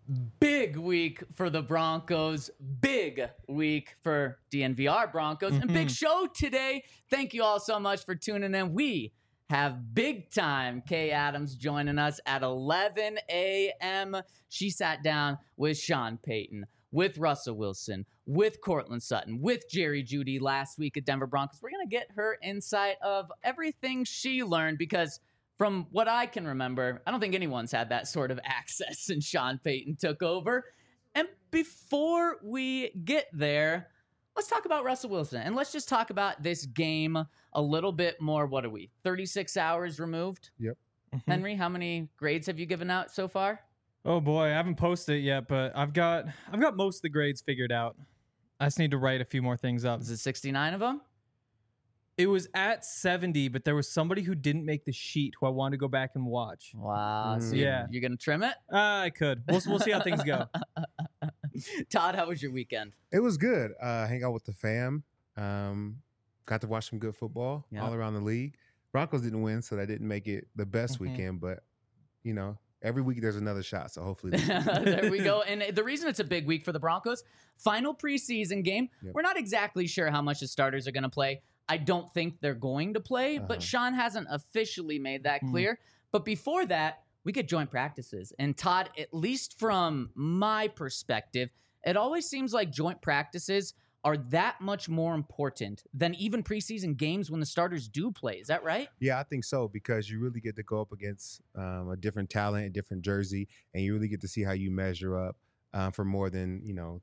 Big week for the Broncos, big week for DNVR Broncos, and big show today. Thank you all so much for tuning in. We have big time Kay Adams joining us at 11 a.m. She sat down with Sean Payton, with Russell Wilson, with Courtland Sutton, with Jerry Jeudy last week at Denver Broncos. We're going to get her insight of everything she learned because from what I can remember, I don't think anyone's had that sort of access since Sean Payton took over. And before we get there, let's talk about Russell Wilson. And let's just talk about this game a little bit more. What are we, 36 hours removed? Yep. Henry, how many grades have you given out so far? Oh boy, I haven't posted it yet, but I've got most of the grades figured out. I just need to write a few more things up. Is it 69 of them? It was at 70, but there was somebody who didn't make the sheet who I wanted to go back and watch. Wow. So Yeah. you're going to trim it? I could. We'll see how things go. Todd, how was your weekend? It was good. Hang out with the fam. Got to watch some good football all around the league. Broncos didn't win, so that didn't make it the best weekend. But, you know, every week there's another shot. So hopefully. There we go. And the reason it's a big week for the Broncos, final preseason game. We're not exactly sure how much the starters are going to play. I don't think they're going to play, but Sean hasn't officially made that clear. But before that, we get joint practices. And Todd, at least from my perspective, it always seems like joint practices are that much more important than even preseason games when the starters do play. Is that right? Yeah, I think so, because you really get to go up against a different talent, a different jersey, and you really get to see how you measure up. For more than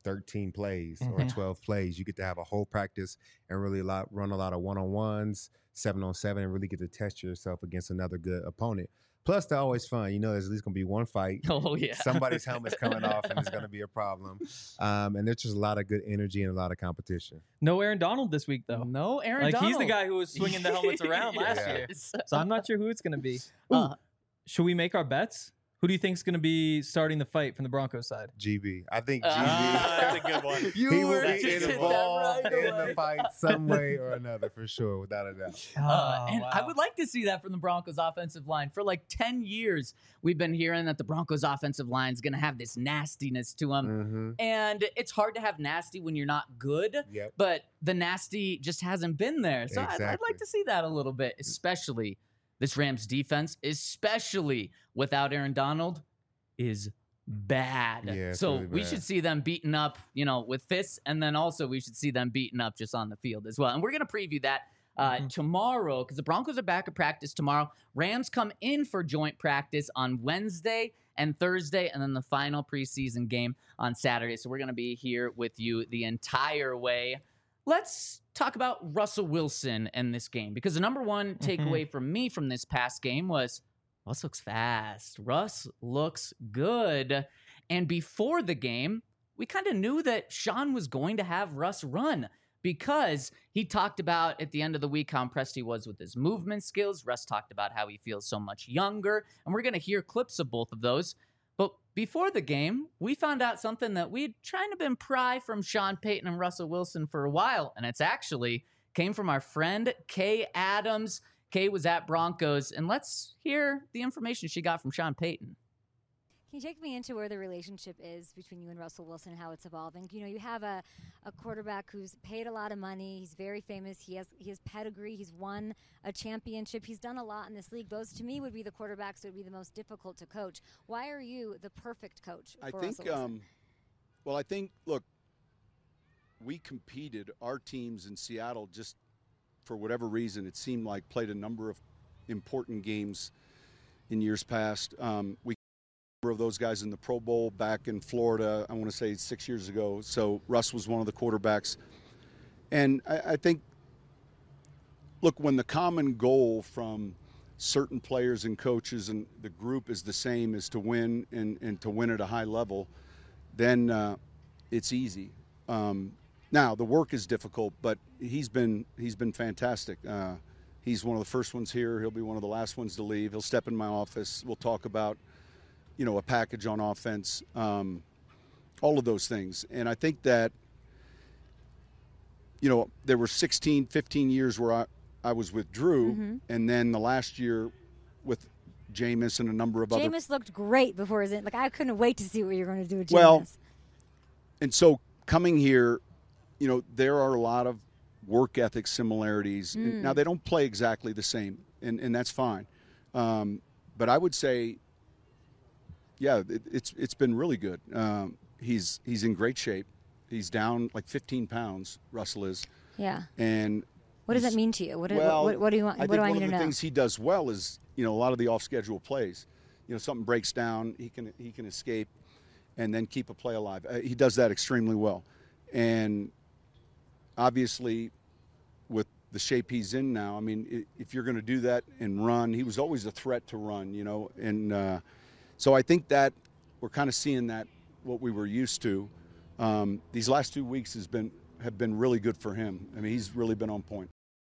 13 plays or 12 plays. You get to have a whole practice and really run a lot of one-on-ones, 7-on-7, and really get to test yourself against another good opponent. Plus, they're always fun. There's at least going to be one fight. Oh, yeah. Somebody's helmet's coming off, and it's going to be a problem. And there's just a lot of good energy and a lot of competition. No Aaron Donald this week, though. No Aaron Donald. He's the guy who was swinging the helmets around last year. So I'm not sure who it's going to be. Should we make our bets? Who do you think is going to be starting the fight from the Broncos side? GB. I think GB. That's a good one. He will be involved in the fight some way or another, for sure, without a doubt. I would like to see that from the Broncos offensive line. For like 10 years, we've been hearing that the Broncos offensive line is going to have this nastiness to them. And it's hard to have nasty when you're not good, but the nasty just hasn't been there. So I'd like to see that a little bit, especially this Rams defense, especially without Aaron Donald, is bad. Yeah, so really we bad. should see them beaten up, with fists, and then also we should see them beaten up just on the field as well. And we're going to preview that tomorrow because the Broncos are back at practice tomorrow. Rams come in for joint practice on Wednesday and Thursday, and then the final preseason game on Saturday. So we're going to be here with you the entire way. Let's talk about Russell Wilson and this game, because the number one takeaway from me from this past game was Russ looks fast. Russ looks good. And before the game, we kind of knew that Sean was going to have Russ run because he talked about at the end of the week how impressed he was with his movement skills. Russ talked about how he feels so much younger. And we're going to hear clips of both of those. But before the game, we found out something that we'd trying to been pry from Sean Payton and Russell Wilson for a while. And it's actually came from our friend Kay Adams. Kay was at Broncos. And let's hear the information she got from Sean Payton. Can you take me into where the relationship is between you and Russell Wilson and how it's evolving? You have a quarterback who's paid a lot of money. He's very famous. He has pedigree. He's won a championship. He's done a lot in this league. Those, to me, would be the quarterbacks that would be the most difficult to coach. Why are you the perfect coach for Russell Wilson? Well, I think, look, we competed, our teams in Seattle, just for whatever reason, it seemed like played a number of important games in years past. We of those guys in the Pro Bowl back in Florida, I want to say 6 years ago. So Russ was one of the quarterbacks. And I think, look, when the common goal from certain players and coaches and the group is the same as to win and to win at a high level, then it's easy. Now, the work is difficult, but he's been fantastic. He's one of the first ones here. He'll be one of the last ones to leave. He'll step in my office. We'll talk about a package on offense, all of those things. And I think that, there were 16, 15 years where I was with Drew, and then the last year with Jameis and a number of other. Jameis looked great before his I couldn't wait to see what you're going to do with Jameis. Well, and so coming here, there are a lot of work ethic similarities. Now, they don't play exactly the same, and that's fine. But I would say, yeah, it's been really good. He's in great shape. He's down like 15 pounds, Russell is. Yeah. And what does that mean to you? What do you want? I What do I need to know? one of the things he does well is, a lot of the off-schedule plays. Something breaks down, he can escape and then keep a play alive. He does that extremely well. And obviously, with the shape he's in now, I mean, if you're going to do that and run, he was always a threat to run, and so I think that we're kind of seeing that what we were used to. These last 2 weeks have been really good for him. I mean, he's really been on point.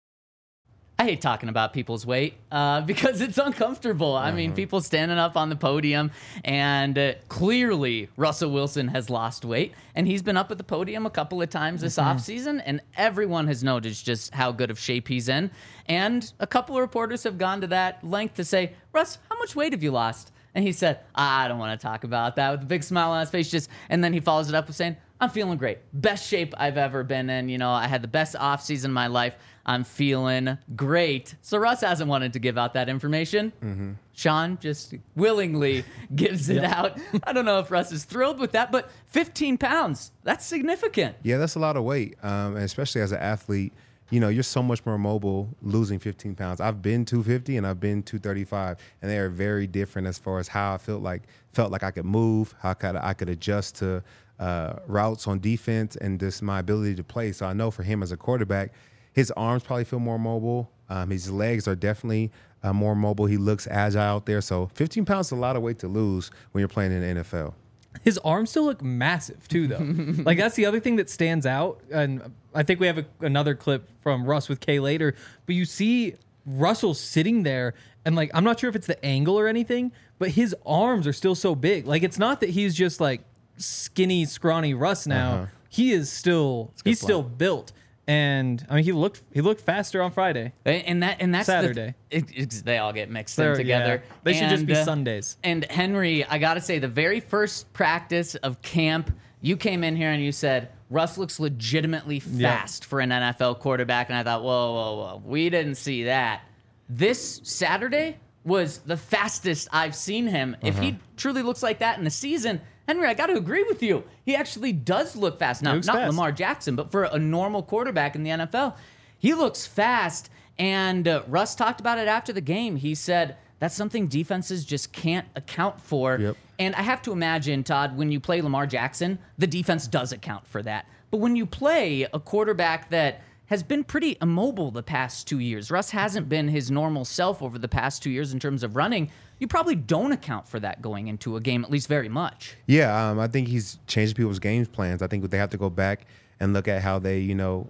I hate talking about people's weight because it's uncomfortable. I mean, people standing up on the podium, and clearly Russell Wilson has lost weight, and he's been up at the podium a couple of times this offseason, and everyone has noticed just how good of shape he's in. And a couple of reporters have gone to that length to say, Russ, how much weight have you lost? And he said, I don't want to talk about that, with a big smile on his face. And then he follows it up with saying, I'm feeling great. Best shape I've ever been in. I had the best offseason of my life. I'm feeling great. So Russ hasn't wanted to give out that information. Sean just willingly gives it out. I don't know if Russ is thrilled with that, but 15 pounds, that's significant. Yeah, that's a lot of weight, and especially as an athlete. You're so much more mobile losing 15 pounds. I've been 250 and I've been 235, and they are very different as far as how I felt like I could move, how I could adjust to routes on defense, and just my ability to play. So I know for him as a quarterback, his arms probably feel more mobile. His legs are definitely more mobile. He looks agile out there. So 15 pounds is a lot of weight to lose when you're playing in the NFL. His arms still look massive too, though. That's the other thing that stands out. And I think we have another clip from Russ with Kay later. But you see Russell sitting there, and I'm not sure if it's the angle or anything, but his arms are still so big. It's not that he's just skinny, scrawny Russ now. He is still built. And I mean, he looked faster on Friday, and that's Saturday. They all get mixed in together. Yeah. They should just be Sundays. And Henry, I gotta say, the very first practice of camp, you came in here and you said Russ looks legitimately fast for an NFL quarterback, and I thought, whoa, we didn't see that. This Saturday was the fastest I've seen him. If he truly looks like that in the season, Henry, I got to agree with you. He actually does look fast. Now, not fast. Lamar Jackson, but for a normal quarterback in the NFL, he looks fast. And Russ talked about it after the game. He said that's something defenses just can't account for. Yep. And I have to imagine, Todd, when you play Lamar Jackson, the defense does account for that. But when you play a quarterback that has been pretty immobile the past 2 years, Russ hasn't been his normal self over the past 2 years in terms of running, you probably don't account for that going into a game, at least very much. Yeah, I think he's changed people's game plans. I think they have to go back and look at how they,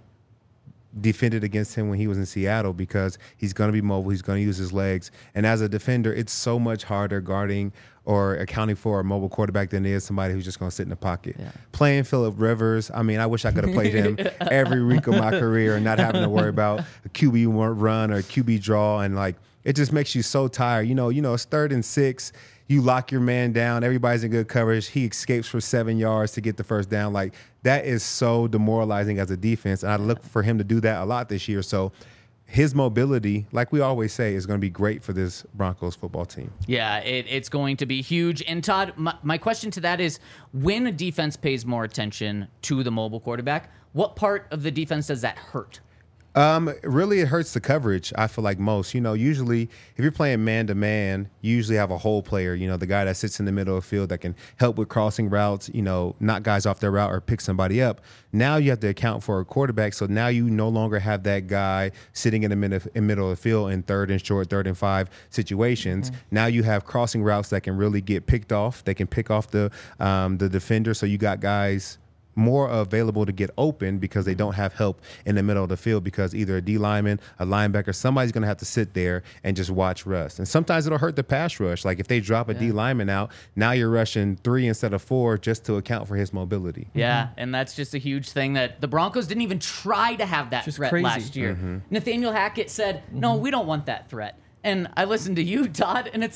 defended against him when he was in Seattle, because he's going to be mobile. He's going to use his legs. And as a defender, it's so much harder guarding or accounting for a mobile quarterback than it is somebody who's just going to sit in the pocket. Yeah. Playing Phillip Rivers, I mean, I wish I could have played him every week of my career and not having to worry about a QB run or a QB draw. And it just makes you so tired. It's 3rd and 6. You lock your man down. Everybody's in good coverage. He escapes for 7 yards to get the first down. That is so demoralizing as a defense. And I look for him to do that a lot this year. So his mobility, like we always say, is going to be great for this Broncos football team. Yeah, it's going to be huge. And Todd, my question to that is, when a defense pays more attention to the mobile quarterback, what part of the defense does that hurt? Really, it hurts the coverage, I feel like most. Usually if you're playing man-to-man, you usually have a hole player, the guy that sits in the middle of the field that can help with crossing routes, knock guys off their route or pick somebody up. Now you have to account for a quarterback, so now you no longer have that guy sitting in the middle of the field in 3rd and short, 3rd and 5 situations. Now you have crossing routes that can really get picked off. They can pick off the defender, so you got guys more available to get open because they don't have help in the middle of the field, because either a D lineman, a linebacker, somebody's going to have to sit there and just watch Russ. And sometimes it'll hurt the pass rush. If they drop a D lineman out, now you're rushing 3 instead of 4 just to account for his mobility. Yeah, and that's just a huge thing that the Broncos didn't even try to have that threat last year. Nathaniel Hackett said, no, we don't want that threat. And I listened to you, Todd, and it's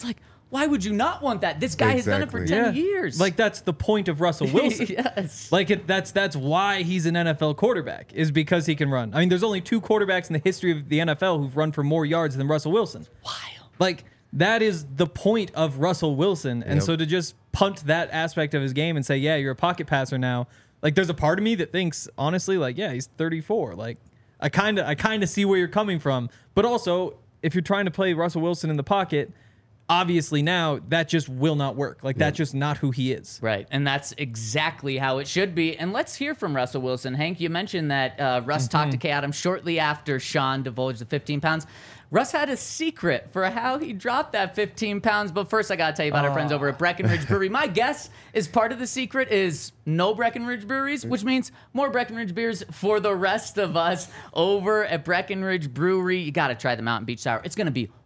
Why would you not want that? This guy has done it for Exactly. 10 years. Like that's the point of Russell Wilson. Yes. Like that's why he's an NFL quarterback, is because he can run. I mean, there's only 2 quarterbacks in the history of the NFL who've run for more yards than Russell Wilson. Wild. Like that is the point of Russell Wilson. And Yep. so to just punt that aspect of his game and say, yeah, you're a pocket passer now. Like there's a part of me that thinks, honestly, like, yeah, he's 34. Like I kind of see where you're coming from. But also, if you're trying to play Russell Wilson in the pocket, obviously now that just will not work. Like that's just not who he is. Right, and that's exactly how it should be. And let's hear from Russell Wilson. Hank, you mentioned that Russ talked to Kay Adams shortly after Sean divulged the 15 pounds. Russ had a secret for how he dropped that 15 pounds. But first, I got to tell you about our friends over at Breckenridge Brewery. My guess is part of the secret is no Breckenridge breweries, which means more Breckenridge beers for the rest of us over at Breckenridge Brewery. You got to try the Mountain Beach Sour. It's going to be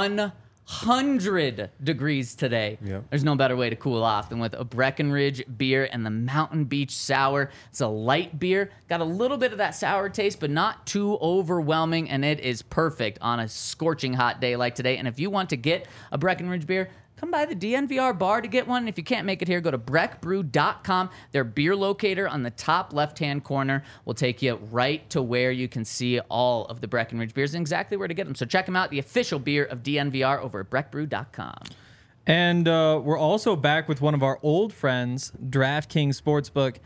100 degrees today. Yep. There's no better way to cool off than with a Breckenridge beer and the Mountain Beach Sour. It's a light beer, got a little bit of that sour taste, but not too overwhelming, and it is perfect on a scorching hot day like today. And if you want to get a Breckenridge beer, come by the DNVR bar to get one. If you can't make it here, go to breckbrew.com. Their beer locator on the top left-hand corner will take you right to where you can see all of the Breckenridge beers and exactly where to get them. So check them out, the official beer of DNVR over at breckbrew.com. And we're also back with one of our old friends, DraftKings Sportsbook.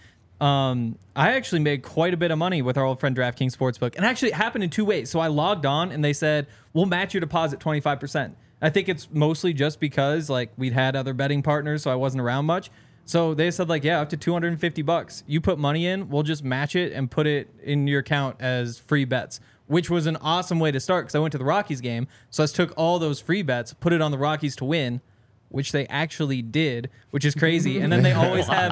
I actually made quite a bit of money with our old friend DraftKings Sportsbook. And actually, it happened in 2 ways. So I logged on, and they said, we'll match your deposit 25%. I think it's mostly just because like we'd had other betting partners, so I wasn't around much. So they said like, yeah, up to $250. You put money in, we'll just match it and put it in your account as free bets, which was an awesome way to start because I went to the Rockies game. So I just took all those free bets, put it on the Rockies to win, which they actually did, which is crazy. And then they always have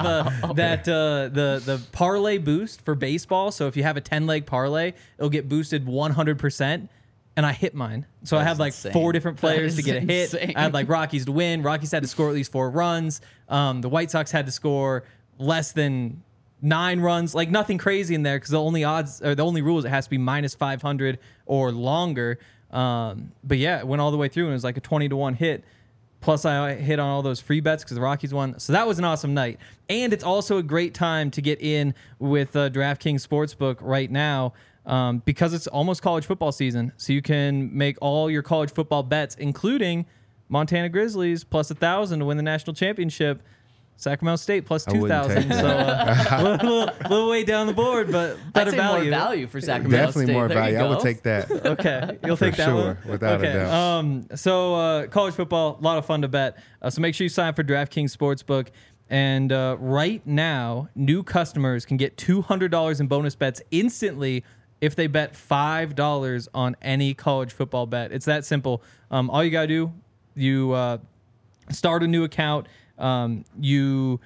the parlay boost for baseball. So if you have a 10-leg parlay, it'll get boosted 100%. And I hit mine. So I had like insane. 4 different players to That get a is hit. insane. I had like Rockies to win. Rockies had to score at least 4 runs. The White Sox had to score less than 9 runs. Like nothing crazy in there because the only odds or the only rule is it has to be minus 500 or longer. But yeah, it went all the way through and it was like a 20-1 hit. Plus, I hit on all those free bets because the Rockies won. So that was an awesome night. And it's also a great time to get in with DraftKings Sportsbook right now. Because it's almost college football season. So you can make all your college football bets, including Montana Grizzlies plus 1,000 to win the national championship. Sacramento State plus I wouldn't 2,000. take that. So little way down the board, but better I'd say value. more value for Sacramento Definitely State. more There you value. I would go. take that. Okay, you'll take that sure, one? without a okay. doubt. So college football, a lot of fun to bet. So make sure you sign up for DraftKings Sportsbook. And right now, new customers can get $200 in bonus bets instantly if they bet $5 on any college football bet. It's that simple. All you got to do, you start a new account, you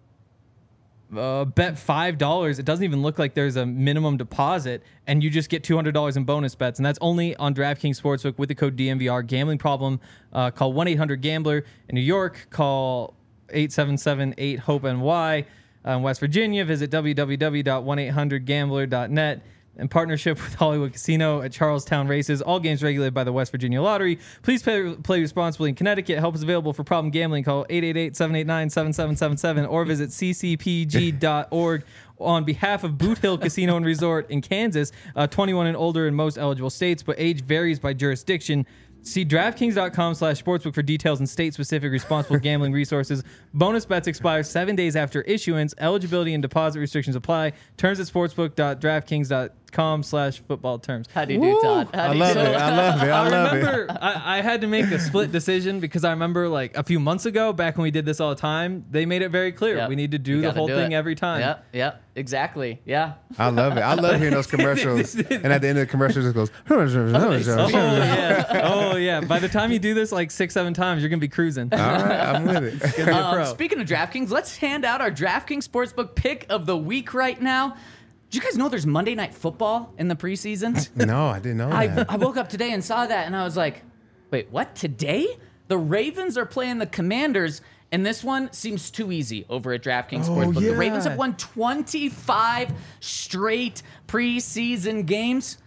bet $5. It doesn't even look like there's a minimum deposit, and you just get $200 in bonus bets. And that's only on DraftKings Sportsbook with the code DMVR. Gambling problem, call 1-800-GAMBLER. In New York, call 877-8-HOPE-NY. In West Virginia, visit www.1800gambler.net. In partnership with Hollywood Casino at Charlestown Races, all games regulated by the West Virginia Lottery. Please play responsibly in Connecticut. Help is available for problem gambling. Call 888-789-7777 or visit ccpg.org. On behalf of Boot Hill Casino and Resort in Kansas, 21 and older in most eligible states, but age varies by jurisdiction. See DraftKings.com/sportsbook for details and state-specific responsible gambling resources. Bonus bets expire 7 days after issuance. Eligibility and deposit restrictions apply. Terms at sportsbook.draftkings.com/football terms. How do you do, Todd? How I do love you it. do? I love it. I love it. remember I had to make a split decision because I remember like a few months ago, back when we did this all the time, they made it very clear Yep. we need to You do the gotta whole do thing it. every time. Yep, exactly. Yeah. I love it. I love hearing those commercials. And at the end of the commercials, it goes. Oh yeah. Oh yeah. By the time you do this like 6-7 times, you're gonna be cruising. All right, I'm with it. Gonna be a pro. Speaking of DraftKings, let's hand out our DraftKings Sportsbook pick of the week right now. Did you guys know there's Monday Night Football in the preseason? No, I didn't know that. I woke up today and saw that, and I was like, wait, what? Today? The Ravens are playing the Commanders, and this one seems too easy over at DraftKings Sportsbook. The Ravens yeah. have won 25 straight preseason games.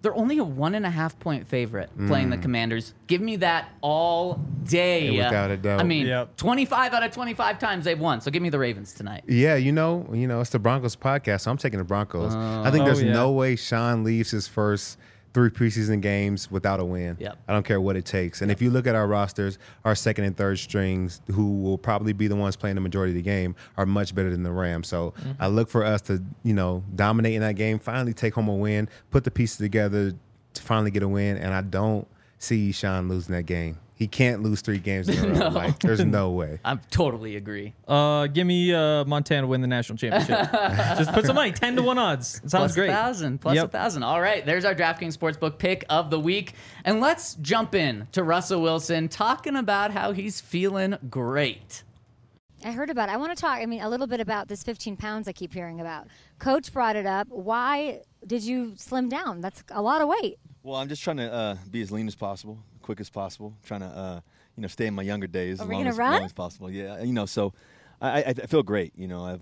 They're only a 1.5-point favorite playing the Commanders. Give me that all day. Without a doubt. I mean, Yep. 25 out of 25 times they've won. So give me the Ravens tonight. Yeah, it's the Broncos podcast, so I'm taking the Broncos. I think there's no way Sean leaves his first 3 preseason games without a win. Yep. I don't care what it takes. And if you look at our rosters, our second and third strings, who will probably be the ones playing the majority of the game, are much better than the Rams. So I look for us to, dominate in that game, finally take home a win, put the pieces together to finally get a win. And I don't see Sean losing that game. He can't lose 3 games in a row. No. Like, there's no way. I totally agree. Give me Montana win the national championship. Just put some money, 10-1 odds. It sounds great. Plus 1,000. All right, there's our DraftKings Sportsbook pick of the week. And let's jump in to Russell Wilson talking about how he's feeling great. I heard about it. I want to talk, a little bit about this 15 pounds I keep hearing about. Coach brought it up. Why did you slim down? That's a lot of weight. Well, I'm just trying to be as lean as possible, quick as possible, trying to, stay in my younger days as long as possible. Yeah, so I feel great. I've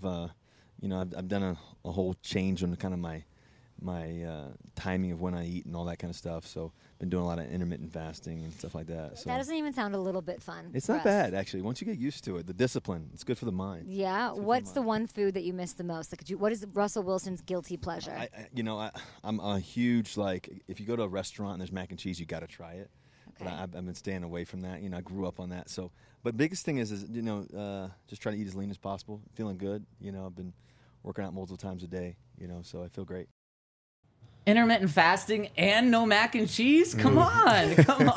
done a whole change on kind of my timing of when I eat and all that kind of stuff. So been doing a lot of intermittent fasting and stuff like that. So that doesn't even sound a little bit fun. It's not bad, actually. Once you get used to it, the discipline, it's good for the mind. Yeah. What's the one food that you miss the most? What is Russell Wilson's guilty pleasure? I'm a huge, if you go to a restaurant and there's mac and cheese, you got to try it. Okay. But I've been staying away from that. I grew up on that. So, but biggest thing is just try to eat as lean as possible. Feeling good. I've been working out multiple times a day. So I feel great. Intermittent fasting and no mac and cheese? Come on.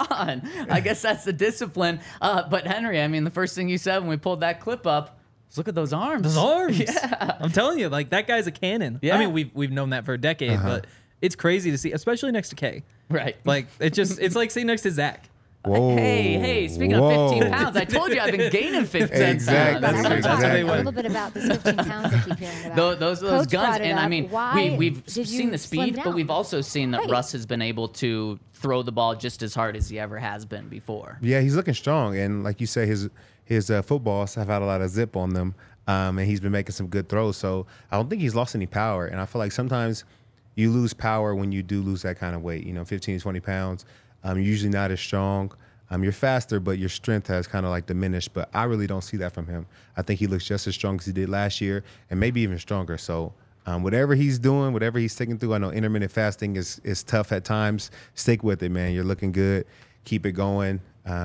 I guess that's the discipline. But Henry, the first thing you said when we pulled that clip up was look at those arms. Those arms. Yeah. I'm telling you, that guy's a cannon. Yeah. We've known that for a decade, but it's crazy to see, especially next to K. Right. It's like sitting next to Zach. Whoa. Hey, speaking of 15 pounds, I told you I've been gaining 15 Exactly. pounds. I want to talk Exactly. a little bit about this 15 pounds I keep hearing about. Those Coach guns, brought it and up. Why we've did seen you the slim speed, but down? we've also seen that Right. Russ has been able to throw the ball just as hard as he ever has been before. Yeah, he's looking strong, and like you say, his footballs have had a lot of zip on them, and he's been making some good throws. So I don't think he's lost any power, and I feel like sometimes you lose power when you do lose that kind of weight. 15 to 20 pounds. You're usually not as strong. You're faster, but your strength has kind of diminished. But I really don't see that from him. I think he looks just as strong as he did last year, and maybe even stronger. So whatever he's doing, whatever he's sticking through, I know intermittent fasting is tough at times. Stick with it, man. You're looking good. Keep it going.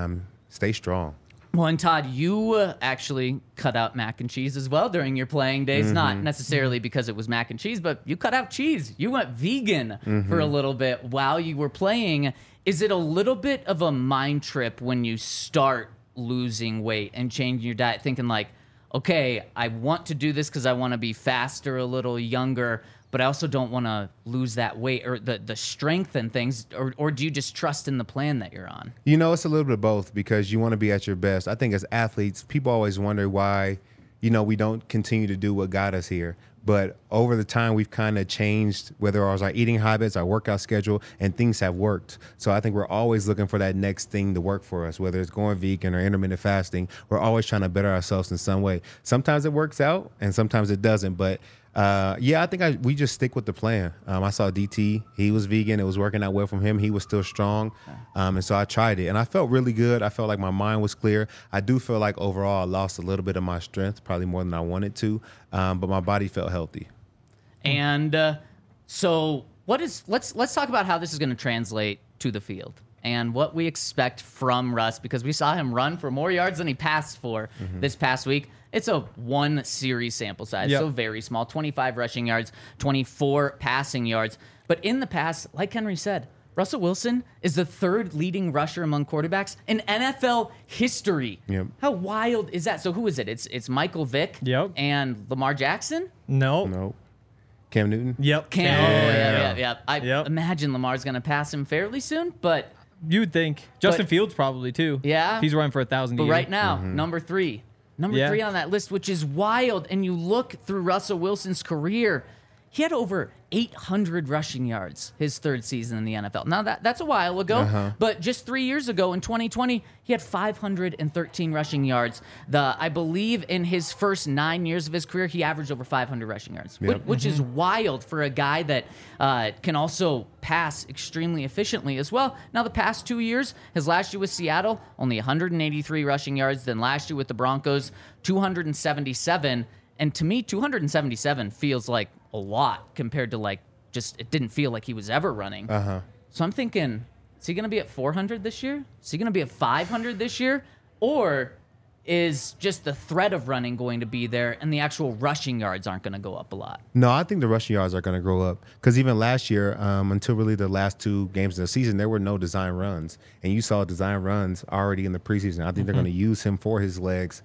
Stay strong. Well, and Todd, you actually cut out mac and cheese as well during your playing days. Not necessarily because it was mac and cheese, but you cut out cheese. You went vegan for a little bit while you were playing. Is it a little bit of a mind trip when you start losing weight and changing your diet, thinking okay, I want to do this because I want to be faster, a little younger, but I also don't want to lose that weight or the strength and things, or do you just trust in the plan that you're on? It's a little bit of both because you want to be at your best. I think as athletes, people always wonder why, we don't continue to do what got us here. But over the time, we've kind of changed, whether it was our eating habits, our workout schedule, and things have worked. So I think we're always looking for that next thing to work for us, whether it's going vegan or intermittent fasting. We're always trying to better ourselves in some way. Sometimes it works out, and sometimes it doesn't. But I think we just stick with the plan. I saw DT. He was vegan. It was working out well from him. He was still strong. And so I tried it. And I felt really good. I felt like my mind was clear. I do feel like overall I lost a little bit of my strength, probably more than I wanted to. But my body felt healthy. And so let's talk about how this is going to translate to the field and what we expect from Russ, because we saw him run for more yards than he passed for this past week. It's a 1 series sample size, so very small, 25 rushing yards, 24 passing yards. But in the past, like Henry said, Russell Wilson is the 3rd leading rusher among quarterbacks in NFL history. Yep. How wild is that? So who is it? It's Michael Vick and Lamar Jackson? No. Cam Newton? Yep. I imagine Lamar's going to pass him fairly soon, but... You would think. Justin Fields probably, too. Yeah. He's running for 1,000 a But year. right now, number 3. Number 3 on that list, which is wild. And you look through Russell Wilson's career, he had over 800 rushing yards his third season in the NFL. Now, that's a while ago, but just 3 years ago in 2020, he had 513 rushing yards. I believe in his first 9 years of his career, he averaged over 500 rushing yards, which is wild for a guy that can also pass extremely efficiently as well. Now, the past 2 years, his last year with Seattle, only 183 rushing yards. Then last year with the Broncos, 277. And to me, 277 feels like a lot compared to it didn't feel like he was ever running. So I'm thinking, is he going to be at 400 this year? Is he going to be at 500 this year? Or is just the threat of running going to be there and the actual rushing yards aren't going to go up a lot? No, I think the rushing yards are going to grow up because even last year, until really the last 2 games of the season, there were no design runs. And you saw design runs already in the preseason. I think they're going to use him for his legs.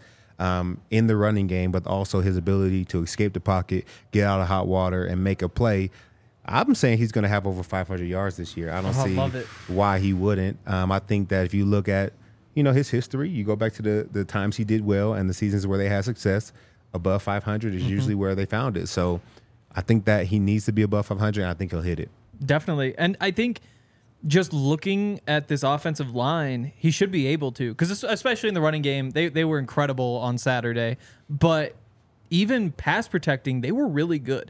In the running game, but also his ability to escape the pocket, get out of hot water, and make a play. I'm saying he's going to have over 500 yards this year. I don't see why he wouldn't. I think that if you look at, his history, you go back to the times he did well and the seasons where they had success, above 500 is usually where they found it. So I think that he needs to be above 500, and I think he'll hit it. Definitely. And I think just looking at this offensive line, he should be able to, because especially in the running game, they were incredible on Saturday. But even pass protecting, they were really good.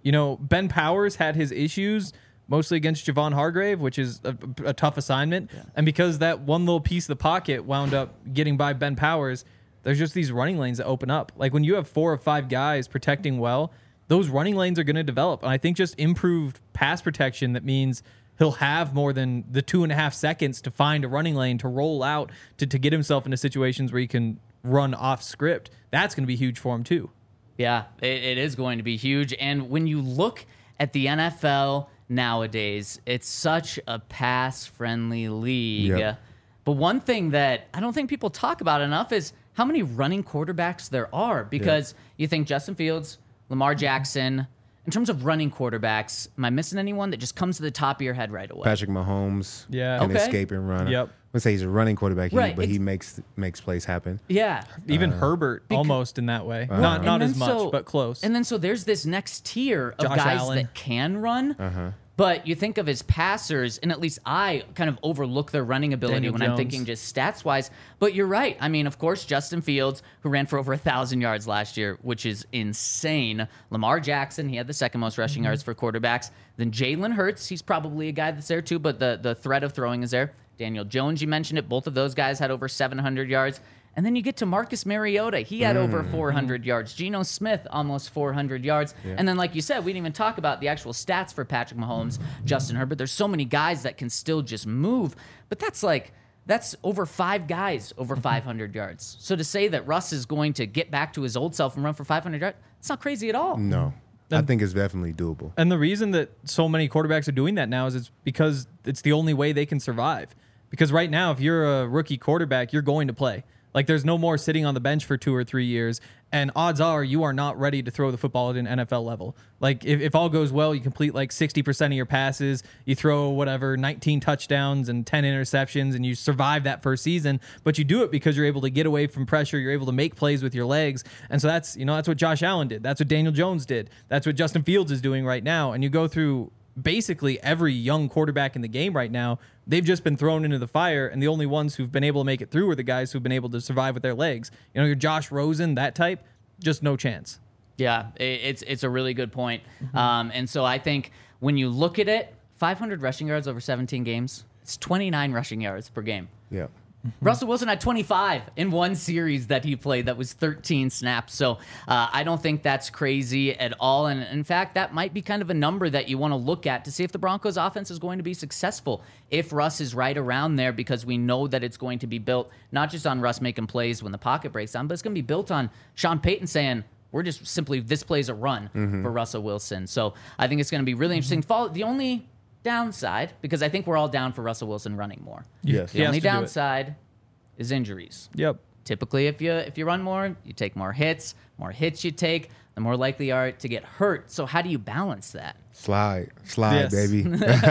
Ben Powers had his issues mostly against Javon Hargrave, which is a tough assignment. Yeah. And because that one little piece of the pocket wound up getting by Ben Powers, there's just these running lanes that open up. Like when you have 4 or 5 guys protecting well, those running lanes are going to develop. And I think just improved pass protection, that means he'll have more than the 2.5 seconds to find a running lane, to roll out, to get himself into situations where he can run off script. That's going to be huge for him too. Yeah, it is going to be huge. And when you look at the NFL nowadays, it's such a pass-friendly league. Yep. But one thing that I don't think people talk about enough is how many running quarterbacks there are. Because you think Justin Fields, Lamar Jackson. In terms of running quarterbacks, am I missing anyone that just comes to the top of your head right away? Patrick Mahomes can escape and run. Yep. Let's say he's a running quarterback, but he makes plays happen. Yeah. Even Herbert, almost in that way. Not as much, but close. And then so there's this next tier of guys Allen that can run. But you think of his passers, and at least I kind of overlook their running ability Daniel when Jones. I'm thinking just stats-wise. But you're right. I mean, of course, Justin Fields, who ran for over 1,000 yards last year, which is insane. Lamar Jackson, he had the second most rushing yards for quarterbacks. Then Jalen Hurts, he's probably a guy that's there too, but the threat of throwing is there. Daniel Jones, you mentioned it. Both of those guys had over 700 yards. And then you get to Marcus Mariota. He had over 400 yards. Geno Smith, almost 400 yards. Yeah. And then, like you said, we didn't even talk about the actual stats for Patrick Mahomes, Justin Herbert. There's so many guys that can still just move. But that's over 5 guys over 500 yards. So to say that Russ is going to get back to his old self and run for 500 yards, it's not crazy at all. No. I think it's definitely doable. And the reason that so many quarterbacks are doing that now is it's because it's the only way they can survive. Because right now, if you're a rookie quarterback, you're going to play. Like, there's no more sitting on the bench for 2 or 3 years, and odds are you are not ready to throw the football at an NFL level. Like, if all goes well, you complete like 60% of your passes, you throw 19 touchdowns and 10 interceptions, and you survive that first season, but you do it because you're able to get away from pressure, you're able to make plays with your legs, and so that's what Josh Allen did, that's what Daniel Jones did, that's what Justin Fields is doing right now, and you go through basically every young quarterback in the game right now. They've just been thrown into the fire, and the only ones who've been able to make it through are the guys who've been able to survive with their legs. Your Josh Rosen, that type, just no chance. Yeah, it's a really good point. And so I think when you look at it, 500 rushing yards over 17 games, it's 29 rushing yards per game. Yeah. Russell Wilson had 25 in one series that he played. That was 13 snaps. So I don't think that's crazy at all. And in fact, that might be kind of a number that you want to look at to see if the Broncos offense is going to be successful. If Russ is right around there, because we know that it's going to be built not just on Russ making plays when the pocket breaks down, but it's going to be built on Sean Payton saying, we're just simply, this play's a run for Russell Wilson. So I think it's going to be really interesting. The only downside, because I think we're all down for Russell Wilson running more. Yes. The only downside is injuries. Yep. Typically, if you run more, you take more hits. More hits you take, the more likely you are to get hurt. So how do you balance that? Slide, baby.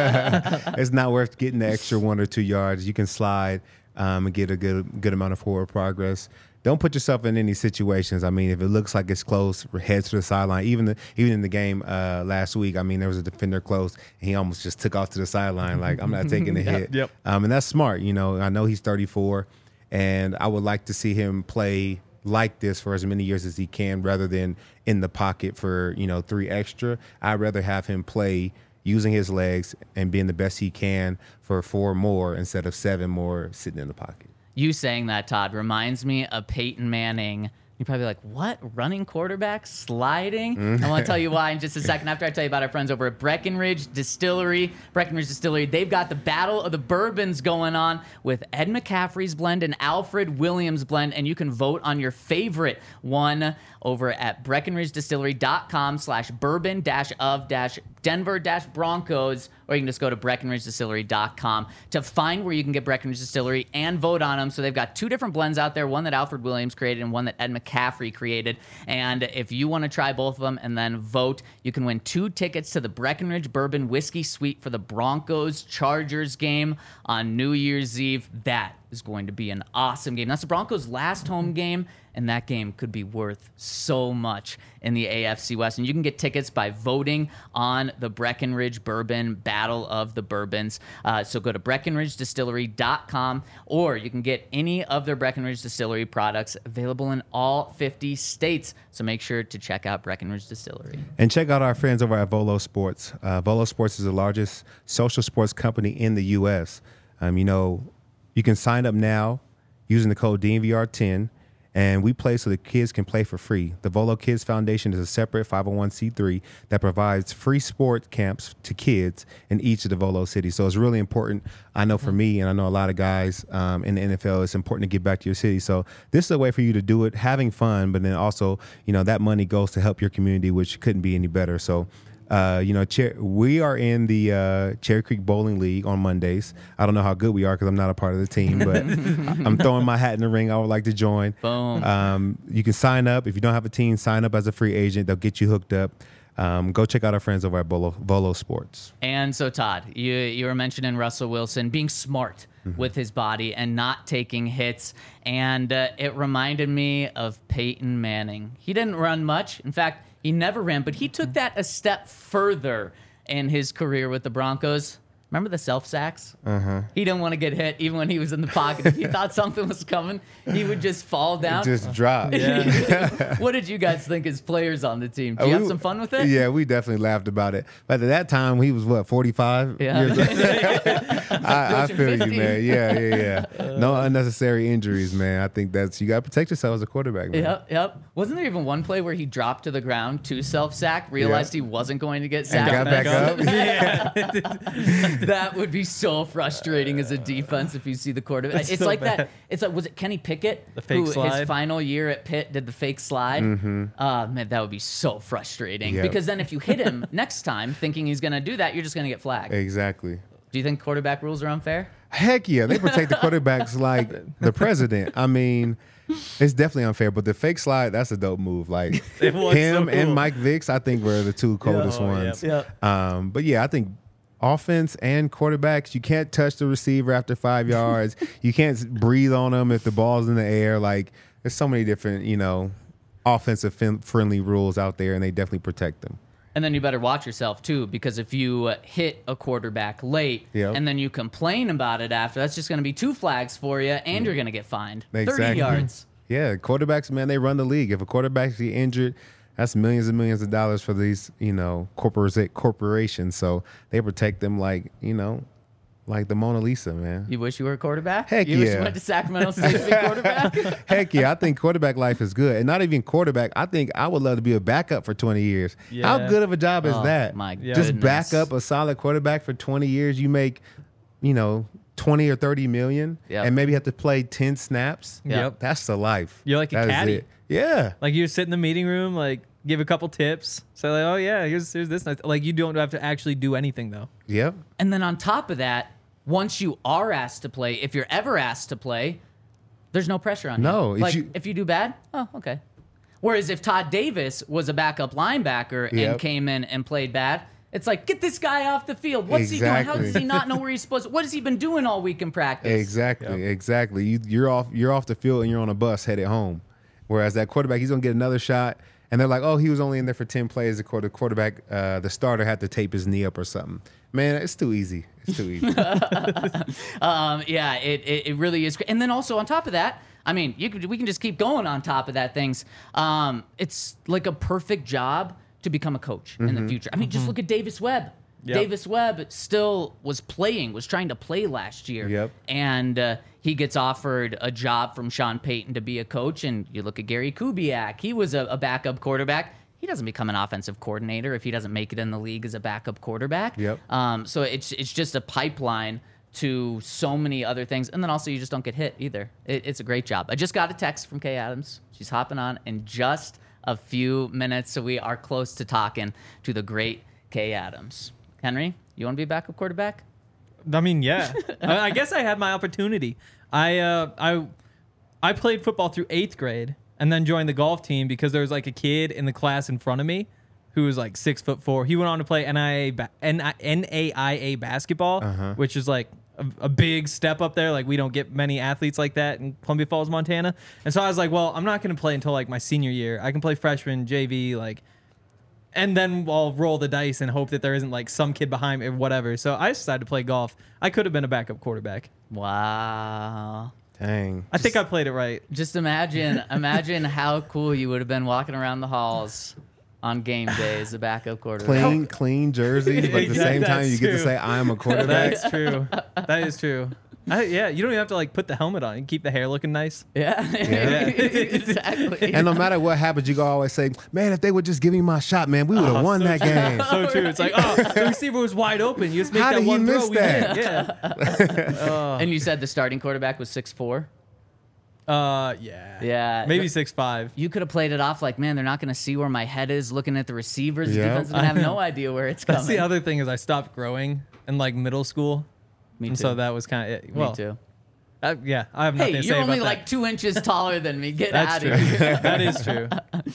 It's not worth getting the extra 1 or 2 yards. You can slide and get a good amount of forward progress. don't put yourself in any situations. I mean, if it looks like it's close, head to the sideline. Even in the game last week, I mean, there was a defender close, and he almost just took off to the sideline. Like, I'm not taking the hit. Yep. And that's smart. You know, I know he's 34, and I would like to see him play like this for as many years as he can, rather than in the pocket for 3 extra. I'd rather have him play using his legs and being the best he can for 4 more instead of 7 more sitting in the pocket. You saying that, Todd, reminds me of Peyton Manning. You're probably like, what? Running quarterback? Sliding? I want to tell you why in just a second after I tell you about our friends over at Breckenridge Distillery. Breckenridge Distillery, they've got the Battle of the Bourbons going on with Ed McCaffrey's blend and Alfred Williams blend, and you can vote on your favorite one over at BreckenridgeDistillery.com/bourbon-of-Denver-Broncos, or you can just go to BreckenridgeDistillery.com to find where you can get Breckenridge Distillery and vote on them. So they've got 2 different blends out there, one that Alfred Williams created and one that Ed McCaffrey created. And if you want to try both of them and then vote, you can win 2 tickets to the Breckenridge Bourbon Whiskey Suite for the Broncos-Chargers game on New Year's Eve. That is going to be an awesome game. That's the Broncos' last home game, and that game could be worth so much in the AFC West. And you can get tickets by voting on the Breckenridge Bourbon Battle of the Bourbons. So go to BreckenridgeDistillery.com, or you can get any of their Breckenridge Distillery products available in all 50 states. So make sure to check out Breckenridge Distillery. And check out our friends over at Volo Sports. Volo Sports is the largest social sports company in the U.S. You can sign up now using the code DNVR10, and we play so the kids can play for free. The Volo Kids Foundation is a separate 501c3 that provides free sport camps to kids in each of the Volo cities. So it's really important. I know for me, and I know a lot of guys in the NFL, it's important to get back to your city. So this is a way for you to do it, having fun, but then also, that money goes to help your community, which couldn't be any better. So we are in the Cherry Creek Bowling League on Mondays. I don't know how good we are because I'm not a part of the team, but I'm throwing my hat in the ring. I would like to join. Boom. You can sign up. If you don't have a team, sign up as a free agent. They'll get you hooked up. Go check out our friends over at Volo Sports. And so, Todd, you were mentioning Russell Wilson being smart with his body and not taking hits. And it reminded me of Peyton Manning. He didn't run much. In fact, he never ran, but he took that a step further in his career with the Broncos. Remember the self-sacks? He didn't want to get hit even when he was in the pocket. If he thought something was coming, he would just fall down. Just drop. What did you guys think as players on the team? Did you have some fun with it? Yeah, we definitely laughed about it. But at that time, he was, 45? Yeah. Years old? I feel 50. you, man. Yeah. No unnecessary injuries, man. I think you got to protect yourself as a quarterback, man. Yep. Wasn't there even one play where he dropped to the ground to self-sack, realized he wasn't going to get And sacked? got back up? That would be so frustrating as a defense if you see the quarterback. It's so like bad. that. It's like, was it Kenny Pickett The fake who slide? his final year at Pitt did the fake slide? Man, that would be so frustrating. Yep. Because then if you hit him next time thinking he's going to do that, you're just going to get flagged. Exactly. Do you think quarterback rules are unfair? Heck yeah. They protect the quarterbacks like the president. I mean, it's definitely unfair, but the fake slide, that's a dope move. Like It was him so and cool. Mike Vick, I think were the 2 coldest ones. But yeah, I think offense and quarterbacks, you can't touch the receiver after 5 yards. You can't breathe on them if the ball's in the air. Like, there's so many different, offensive friendly rules out there, and they definitely protect them. And then you better watch yourself, too, because if you hit a quarterback late Yep. and then you complain about it after, that's just going to be 2 flags for you, and you're going to get fined. 30 Exactly. yards. Yeah, quarterbacks, man, they run the league. If a quarterback get injured, that's millions and millions of dollars for these, corporations. So they protect them like the Mona Lisa, man. You wish you were a quarterback? Heck you wish you yeah. went to Sacramento State to be a quarterback? Heck yeah, I think quarterback life is good. And not even quarterback, I think I would love to be a backup for 20 years. How Yeah. good of a job is Oh, that? my Just goodness. back up a solid quarterback for 20 years. You make, 20 or 30 million Yep. and maybe have to play 10 snaps. Yep. That's the life. You're like a That is caddy. it. Yeah. Like you sit in the meeting room, like give a couple tips. Say like, oh yeah, here's this. Like you don't have to actually do anything though. Yep. And then on top of that, once you are asked to play, if you're ever asked to play, there's no pressure on No, you. if If you do bad, oh, okay. Whereas if Todd Davis was a backup linebacker and Yep. came in and played bad, It's like, get this guy off the field. What's he doing? How does he not know where he's supposed to? What has he been doing all week in practice? Exactly. You're off the field and you're on a bus headed home. Whereas that quarterback, he's going to get another shot. And they're like, oh, he was only in there for 10 plays. The quarterback, the starter had to tape his knee up or something. Man, it's too easy. It's too easy. Yeah, it really is. And then also on top of that, I mean, we can just keep going on top of that things. It's like a perfect job to become a coach in the future. I mean, just look at Davis Webb. Yep. Davis Webb still was trying to play last year. Yep. And he gets offered a job from Sean Payton to be a coach. And you look at Gary Kubiak. He was a backup quarterback. He doesn't become an offensive coordinator if he doesn't make it in the league as a backup quarterback. Yep. So it's just a pipeline to so many other things. And then also you just don't get hit either. It's a great job. I just got a text from Kay Adams. She's hopping on in just a few minutes. So we are close to talking to the great Kay Adams. Henry, you want to be a backup quarterback? I mean, yeah. I guess I had my opportunity. I played football through 8th grade and then joined the golf team because there was like a kid in the class in front of me who was like 6'4". He went on to play NAIA basketball, which is like a big step up there. Like we don't get many athletes like that in Columbia Falls, Montana. And so I was like, well, I'm not going to play until like my senior year. I can play freshman, JV, like, and then I'll roll the dice and hope that there isn't like some kid behind me or whatever. So I decided to play golf. I could have been a backup quarterback. Wow. Dang. I think I played it right. Just imagine how cool you would have been walking around the halls on game day as a backup quarterback. Clean jerseys, but at the same time you get to say I am a quarterback. That's true. That is true. Yeah, you don't even have to like put the helmet on. You keep the hair looking nice. Yeah. Exactly. And no matter what happens, you can always say, man, if they would just give me my shot, man, we would have won that game. So true. It's like, oh, the receiver was wide open. You just make How that did one he throw. miss We that? win. Yeah. And you said the starting quarterback was 6'4"? Yeah. Yeah. Maybe 6'5". You could have played it off like, man, they're not going to see where my head is looking at the receivers. The Yeah. defense is going to have no idea where it's coming. That's the other thing is I stopped growing in like middle school. Me And too. so that was kind of, well, Me too. Yeah, I have nothing Hey, to say you're about only that. like 2 inches taller than me. Get That's out true. of here. That is true.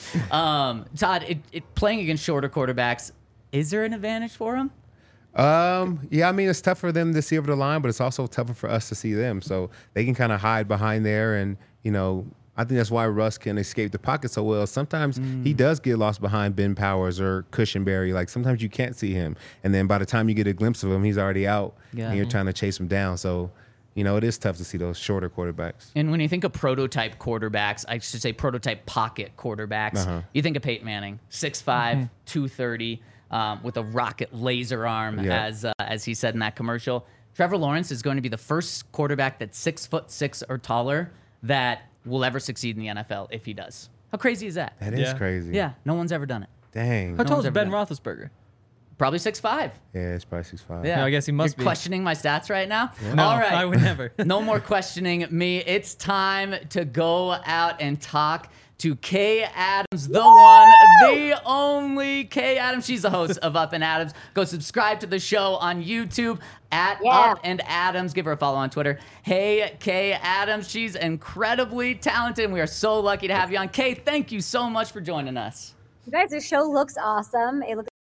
Todd, playing against shorter quarterbacks, is there an advantage for him? Yeah, I mean, it's tough for them to see over the line, but it's also tougher for us to see them. So they can kind of hide behind there. And, you know, I think that's why Russ can escape the pocket so well. Sometimes he does get lost behind Ben Powers or Cushenberry. Like sometimes you can't see him. And then by the time you get a glimpse of him, he's already out and you're trying to chase him down. So, you know, it is tough to see those shorter quarterbacks. And when you think of prototype quarterbacks, I should say prototype pocket quarterbacks, you think of Peyton Manning, 6'5", 230, with a rocket laser arm, as he said in that commercial. Trevor Lawrence is going to be the first quarterback that's 6'6" or taller that will ever succeed in the NFL if he does. How crazy is that? That is crazy. Yeah, no one's ever done it. Dang. How tall one's is ever Ben done Roethlisberger? Probably 6'5". Yeah, it's probably 6'5". Yeah, No, I guess he must You're be. questioning my stats right now? No, All right. I would never. No more questioning me. It's time to go out and talk to Kay Adams, the one, the only Kay Adams. She's the host of Up and Adams. Go subscribe to the show on YouTube at Up and Adams. Give her a follow on Twitter. Hey, Kay Adams. She's incredibly talented, and we are so lucky to have you on. Kay, thank you so much for joining us. You guys, the show looks awesome. It looks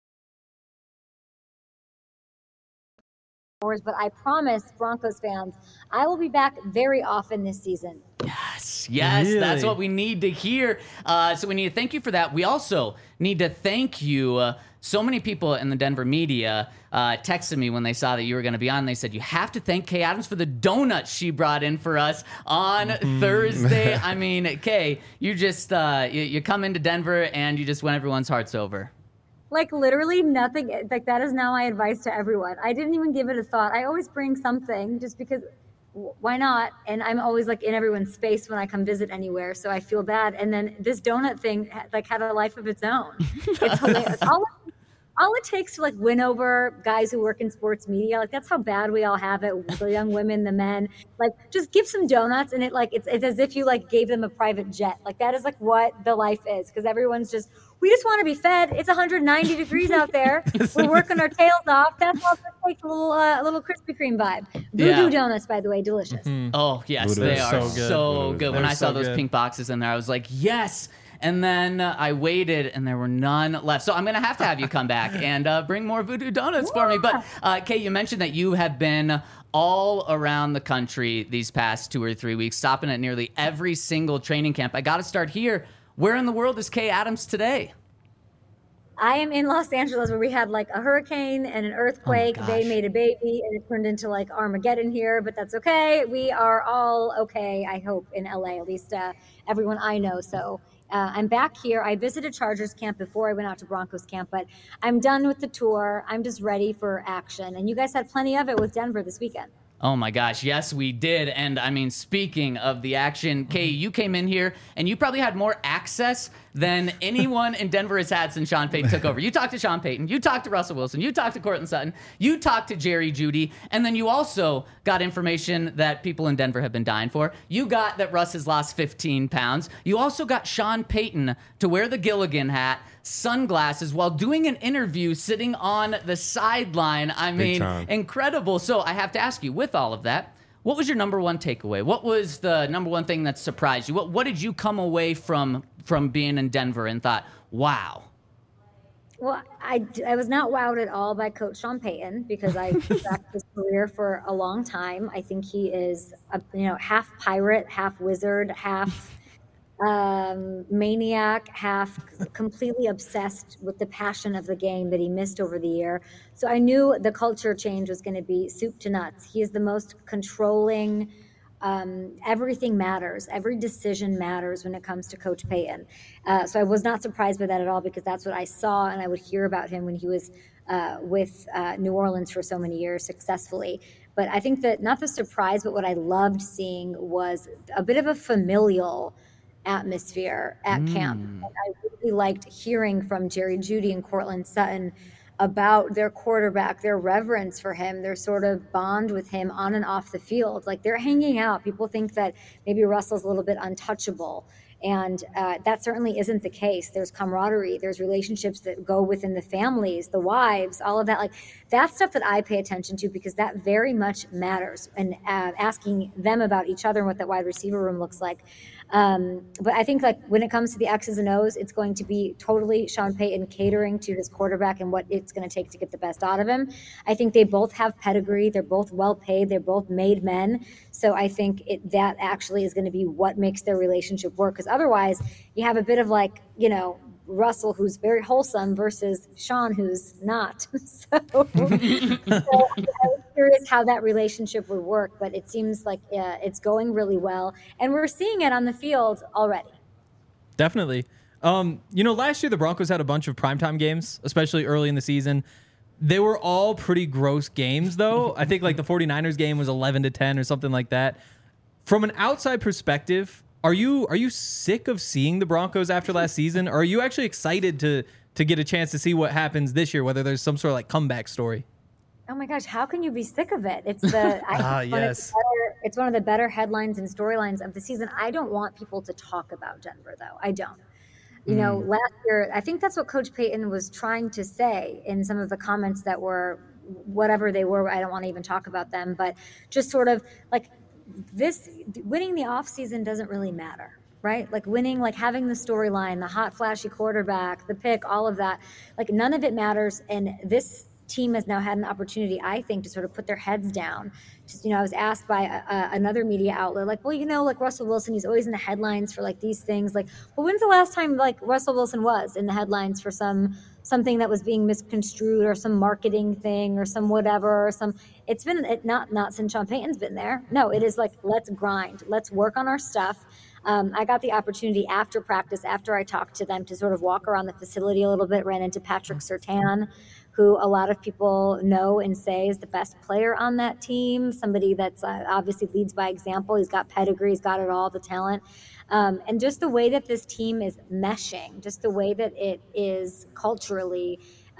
but I promise Broncos fans, I will be back very often this season. Yes, Really? that's what we need to hear. So we need to thank you for that. We also need to thank you. So many people in the Denver media texted me when they saw that you were going to be on. They said, you have to thank Kay Adams for the donuts she brought in for us on Thursday. I mean, Kay, you just you come into Denver and you just win everyone's hearts over. Like literally nothing. Like that is now my advice to everyone. I didn't even give it a thought. I always bring something just because why not? And I'm always like in everyone's space when I come visit anywhere. So I feel bad. And then this donut thing like had a life of its own. It's hilarious. All it takes to like win over guys who work in sports media, like that's how bad we all have it. The young women, the men, like just give some donuts and it's as if you like gave them a private jet. Like that is like what the life is. Cause everyone's we just want to be fed. It's 190 degrees out there. We're working our tails off. That's all it takes, a little Krispy Kreme vibe. Voodoo donuts, by the way, delicious. Oh, yes, Voodoo they is are so good. so good. When They're I saw so those good. pink boxes in there, I was like, yes. And then I waited, and there were none left. So I'm going to have you come back and bring more Voodoo Donuts for me. But, Kate, you mentioned that you have been all around the country these past 2 or 3 weeks, stopping at nearly every single training camp. I got to start here. Where in the world is Kay Adams today? I am in Los Angeles, where we had like a hurricane and an earthquake. They made a baby and it turned into like Armageddon here, but that's okay. We are all okay, I hope, in LA, at least everyone I know. So I'm back here. I visited Chargers camp before I went out to Broncos camp, but I'm done with the tour. I'm just ready for action. And you guys had plenty of it with Denver this weekend. Oh my gosh, yes, we did. And I mean, speaking of the action, Kay, you came in here and you probably had more access than anyone in Denver has had since Sean Payton took over. You talked to Sean Payton, you talked to Russell Wilson, you talked to Courtland Sutton, you talked to Jerry Jeudy, and then you also got information that people in Denver have been dying for. You got that Russ has lost 15 pounds. You also got Sean Payton to wear the Gilligan hat, sunglasses, while doing an interview sitting on the sideline. I mean, incredible. So I have to ask you, with all of that, what was your number one takeaway? What was the number one thing that surprised you? What did you come away from being in Denver and thought, wow? Well, I was not wowed at all by Coach Sean Payton, because I tracked his career for a long time. I think he is, half pirate, half wizard, half maniac, half completely obsessed with the passion of the game that he missed over the year. So I knew the culture change was going to be soup to nuts. He is the most controlling. Everything matters. Every decision matters when it comes to Coach Payton. So I was not surprised by that at all, because that's what I saw, and I would hear about him when he was with New Orleans for so many years successfully. But I think that not the surprise, but what I loved seeing was a bit of a familial atmosphere at camp. And I really liked hearing from Jerry Jeudy and Courtland Sutton about their quarterback, their reverence for him, their sort of bond with him on and off the field. Like, they're hanging out. People think that maybe Russell's a little bit untouchable. And that certainly isn't the case. There's camaraderie. There's relationships that go within the families, the wives, all of that. Like, that's stuff that I pay attention to, because that very much matters. And asking them about each other and what that wide receiver room looks like. But I think, like, when it comes to the X's and O's, it's going to be totally Sean Payton catering to his quarterback and what it's going to take to get the best out of him. I think they both have pedigree. They're both well paid. They're both made men. So I think that actually is going to be what makes their relationship work. Because otherwise, you have a bit of like, Russell, who's very wholesome, versus Sean, who's not. So I was curious how that relationship would work, but it seems like it's going really well, and we're seeing it on the field already. Definitely. Last year the Broncos had a bunch of primetime games, especially early in the season. They were all pretty gross games, though. I think like the 49ers game was 11-10 or something like that. From an outside perspective, Are you sick of seeing the Broncos after last season? Or are you actually excited to get a chance to see what happens this year, whether there's some sort of like comeback story? Oh my gosh, how can you be sick of it? It's it's one of the better headlines and storylines of the season. I don't want people to talk about Denver, though. I don't. Last year, I think that's what Coach Payton was trying to say in some of the comments that were whatever they were. I don't want to even talk about them, but just sort of like, winning the offseason doesn't really matter, right? Like winning, like having the storyline, the hot, flashy quarterback, the pick, all of that, like none of it matters. And this team has now had an opportunity, I think, to sort of put their heads down. Just, I was asked by another media outlet, like, well, like Russell Wilson, he's always in the headlines for like these things. Like, well, when's the last time like Russell Wilson was in the headlines for something that was being misconstrued or some marketing thing or some whatever, or it's been not since Sean Payton's been there. No, it is like, let's grind, let's work on our stuff. I got the opportunity after practice, after I talked to them, to sort of walk around the facility a little bit, ran into Patrick Surtain, who a lot of people know and say is the best player on that team, somebody that's obviously leads by example. He's got pedigree, he's got it all, the talent. And just the way that this team is meshing, just the way that it is culturally,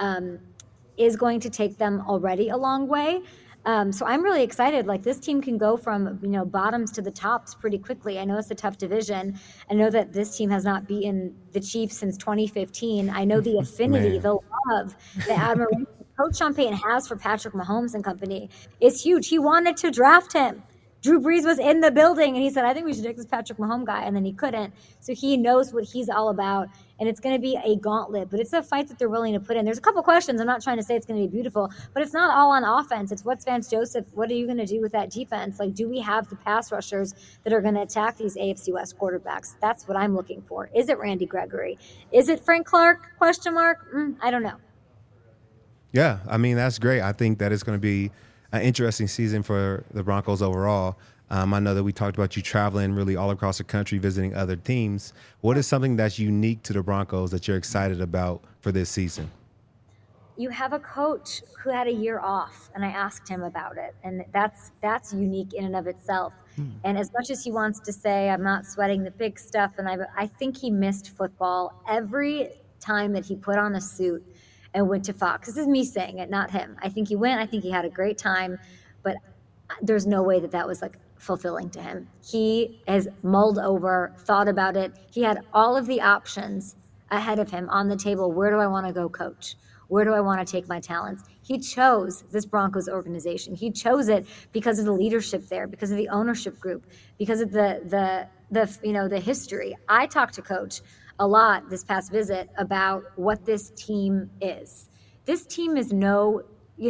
is going to take them already a long way. So I'm really excited. Like, this team can go from, bottoms to the tops pretty quickly. I know it's a tough division. I know that this team has not beaten the Chiefs since 2015. I know the affinity, the love, the admiration Coach Sean Payton has for Patrick Mahomes and company is huge. He wanted to draft him. Drew Brees was in the building, and he said, I think we should take this Patrick Mahomes guy, and then he couldn't. So he knows what he's all about, and it's going to be a gauntlet, but it's a fight that they're willing to put in. There's a couple questions. I'm not trying to say it's going to be beautiful, but it's not all on offense. It's what's Vance Joseph, what are you going to do with that defense? Like, do we have the pass rushers that are going to attack these AFC West quarterbacks? That's what I'm looking for. Is it Randy Gregory? Is it Frank Clark? Question mark? I don't know. Yeah, I mean, that's great. I think that it's going to be an interesting season for the Broncos overall. I know that we talked about you traveling really all across the country, visiting other teams. What is something that's unique to the Broncos that you're excited about for this season? You have a coach who had a year off, and I asked him about it, and that's unique in and of itself. And as much as he wants to say, I'm not sweating the big stuff, and I think he missed football every time that he put on a suit and went to Fox. This is me saying it, not him. I think he went. I think he had a great time, but there's no way that was like fulfilling to him. He has mulled over, thought about it. He had all of the options ahead of him on the table. Where do I want to go coach? Where do I want to take my talents? He chose this Broncos organization. He chose it because of the leadership there, because of the ownership group, because of the history. I talked to Coach a lot this past visit about what this team is. This team is no,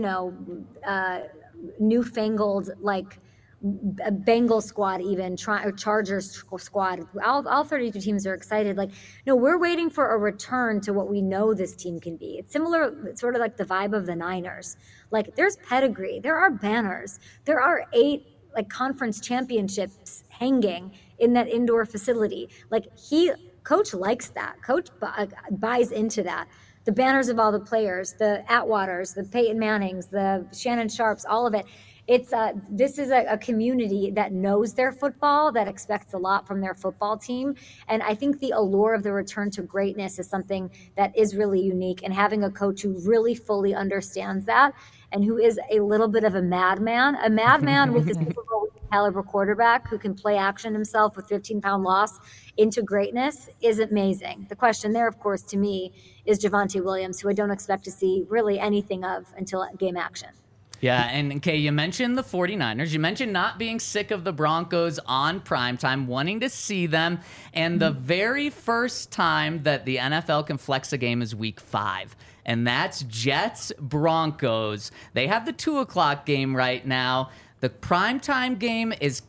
newfangled like a Bengals squad, even or Chargers squad. All 32 teams are excited. Like, no, we're waiting for a return to what we know this team can be. It's similar, it's sort of like the vibe of the Niners. Like, there's pedigree, there are banners, there are 8 like conference championships hanging in that indoor facility. Like, Coach likes that. Coach buys into that. The banners of all the players, the Atwaters, the Peyton Mannings, the Shannon Sharps, all of it. This is a community that knows their football, that expects a lot from their football team. And I think the allure of the return to greatness is something that is really unique. And having a coach who really fully understands that and who is a little bit of a madman with a Super Bowl caliber quarterback who can play action himself with 15-pound loss into greatness is amazing. The question there, of course, to me, is Javonte Williams, who I don't expect to see really anything of until game action. Yeah, and Kay, you mentioned the 49ers. You mentioned not being sick of the Broncos on primetime, wanting to see them. And the very first time that the NFL can flex a game is week 5. And that's Jets-Broncos. They have the 2 o'clock game right now. The primetime game is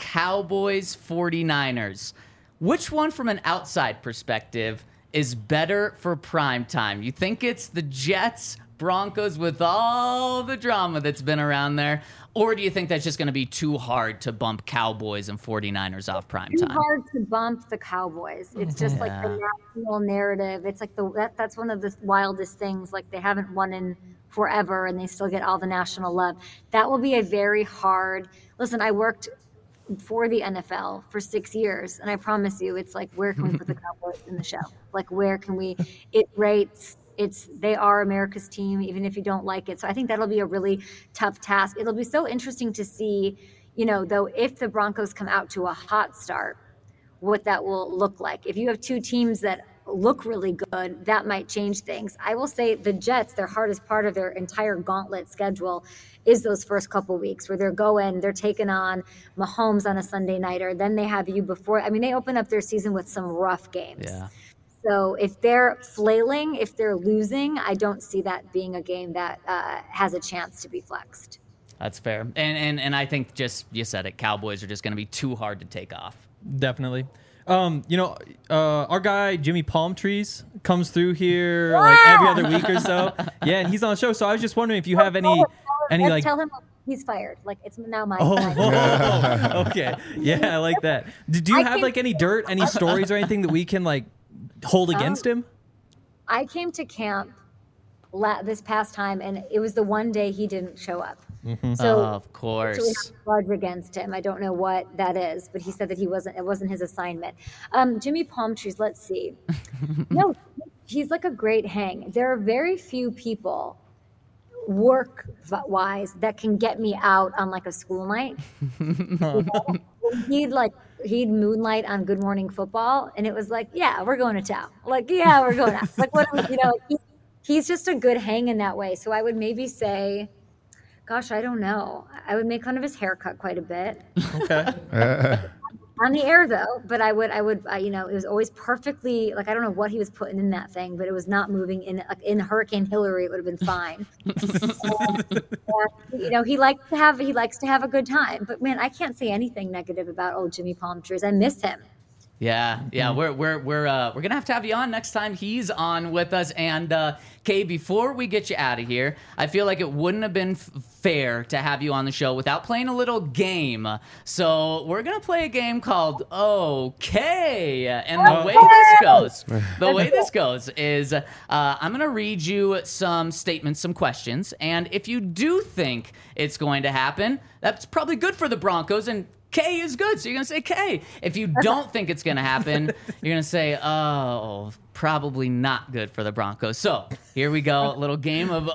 Cowboys-49ers. Which one, from an outside perspective, is better for primetime? You think it's the Jets-Broncos with all the drama that's been around there? Or do you think that's just going to be too hard to bump Cowboys and 49ers off primetime? Too hard to bump the Cowboys. It's just like the national narrative. It's like that's one of the wildest things. Like, they haven't won in forever and they still get all the national love. That will be a very hard. Listen, I worked for the NFL for 6 years, and I promise you, it's like, where can we put the Cowboys in the show? Like, where can we? It rates. They are America's team, even if you don't like it. So I think that'll be a really tough task. It'll be so interesting to see, though, if the Broncos come out to a hot start, what that will look like. If you have 2 teams that look really good, that might change things. I will say the Jets, their hardest part of their entire gauntlet schedule is those first couple weeks where they're taking on Mahomes on a Sunday nighter. Then they have you before. I mean, they open up their season with some rough games. Yeah. So if they're flailing, if they're losing, I don't see that being a game that has a chance to be flexed. That's fair. And I think you said it, Cowboys are just going to be too hard to take off. Definitely. Our guy Jimmy Palmtrees comes through here like every other week or so. Yeah, and he's on the show. So I was just wondering if you have any like. Tell him he's fired. Like, it's now my time. Okay. Yeah, I like that. Do you have like any dirt, any stories or anything that we can like hold against him? I came to camp this past time, and it was the one day he didn't show up. Mm-hmm. So of course, we have a grudge against him. I don't know what that is, but he said that it wasn't his assignment. Jimmy Palmtrees, let's see. No, he's like a great hang. There are very few people work-wise that can get me out on like a school night. He'd moonlight on Good Morning Football, and it was like, yeah, we're going to town. Like, yeah, we're going out. Like, what, he's just a good hang in that way. So I would maybe say Gosh, I don't know. I would make fun of his haircut quite a bit. Okay. On the air though, but I would, it was always perfectly, like, I don't know what he was putting in that thing, but it was not moving in Hurricane Hillary. It would have been fine. He likes to have a good time, but man, I can't say anything negative about old Jimmy Palmtrees. I miss him. Yeah, we're gonna have to have you on next time he's on with us. And Kay, before we get you out of here, I feel like it wouldn't have been fair to have you on the show without playing a little game. So we're gonna play a game called OK. And the way this goes is I'm gonna read you some statements, some questions, and if you do think it's going to happen, that's probably good for the Broncos, and K is good, so you're going to say K. If you don't think it's going to happen, you're going to say, oh, probably not good for the Broncos. So here we go, a little game of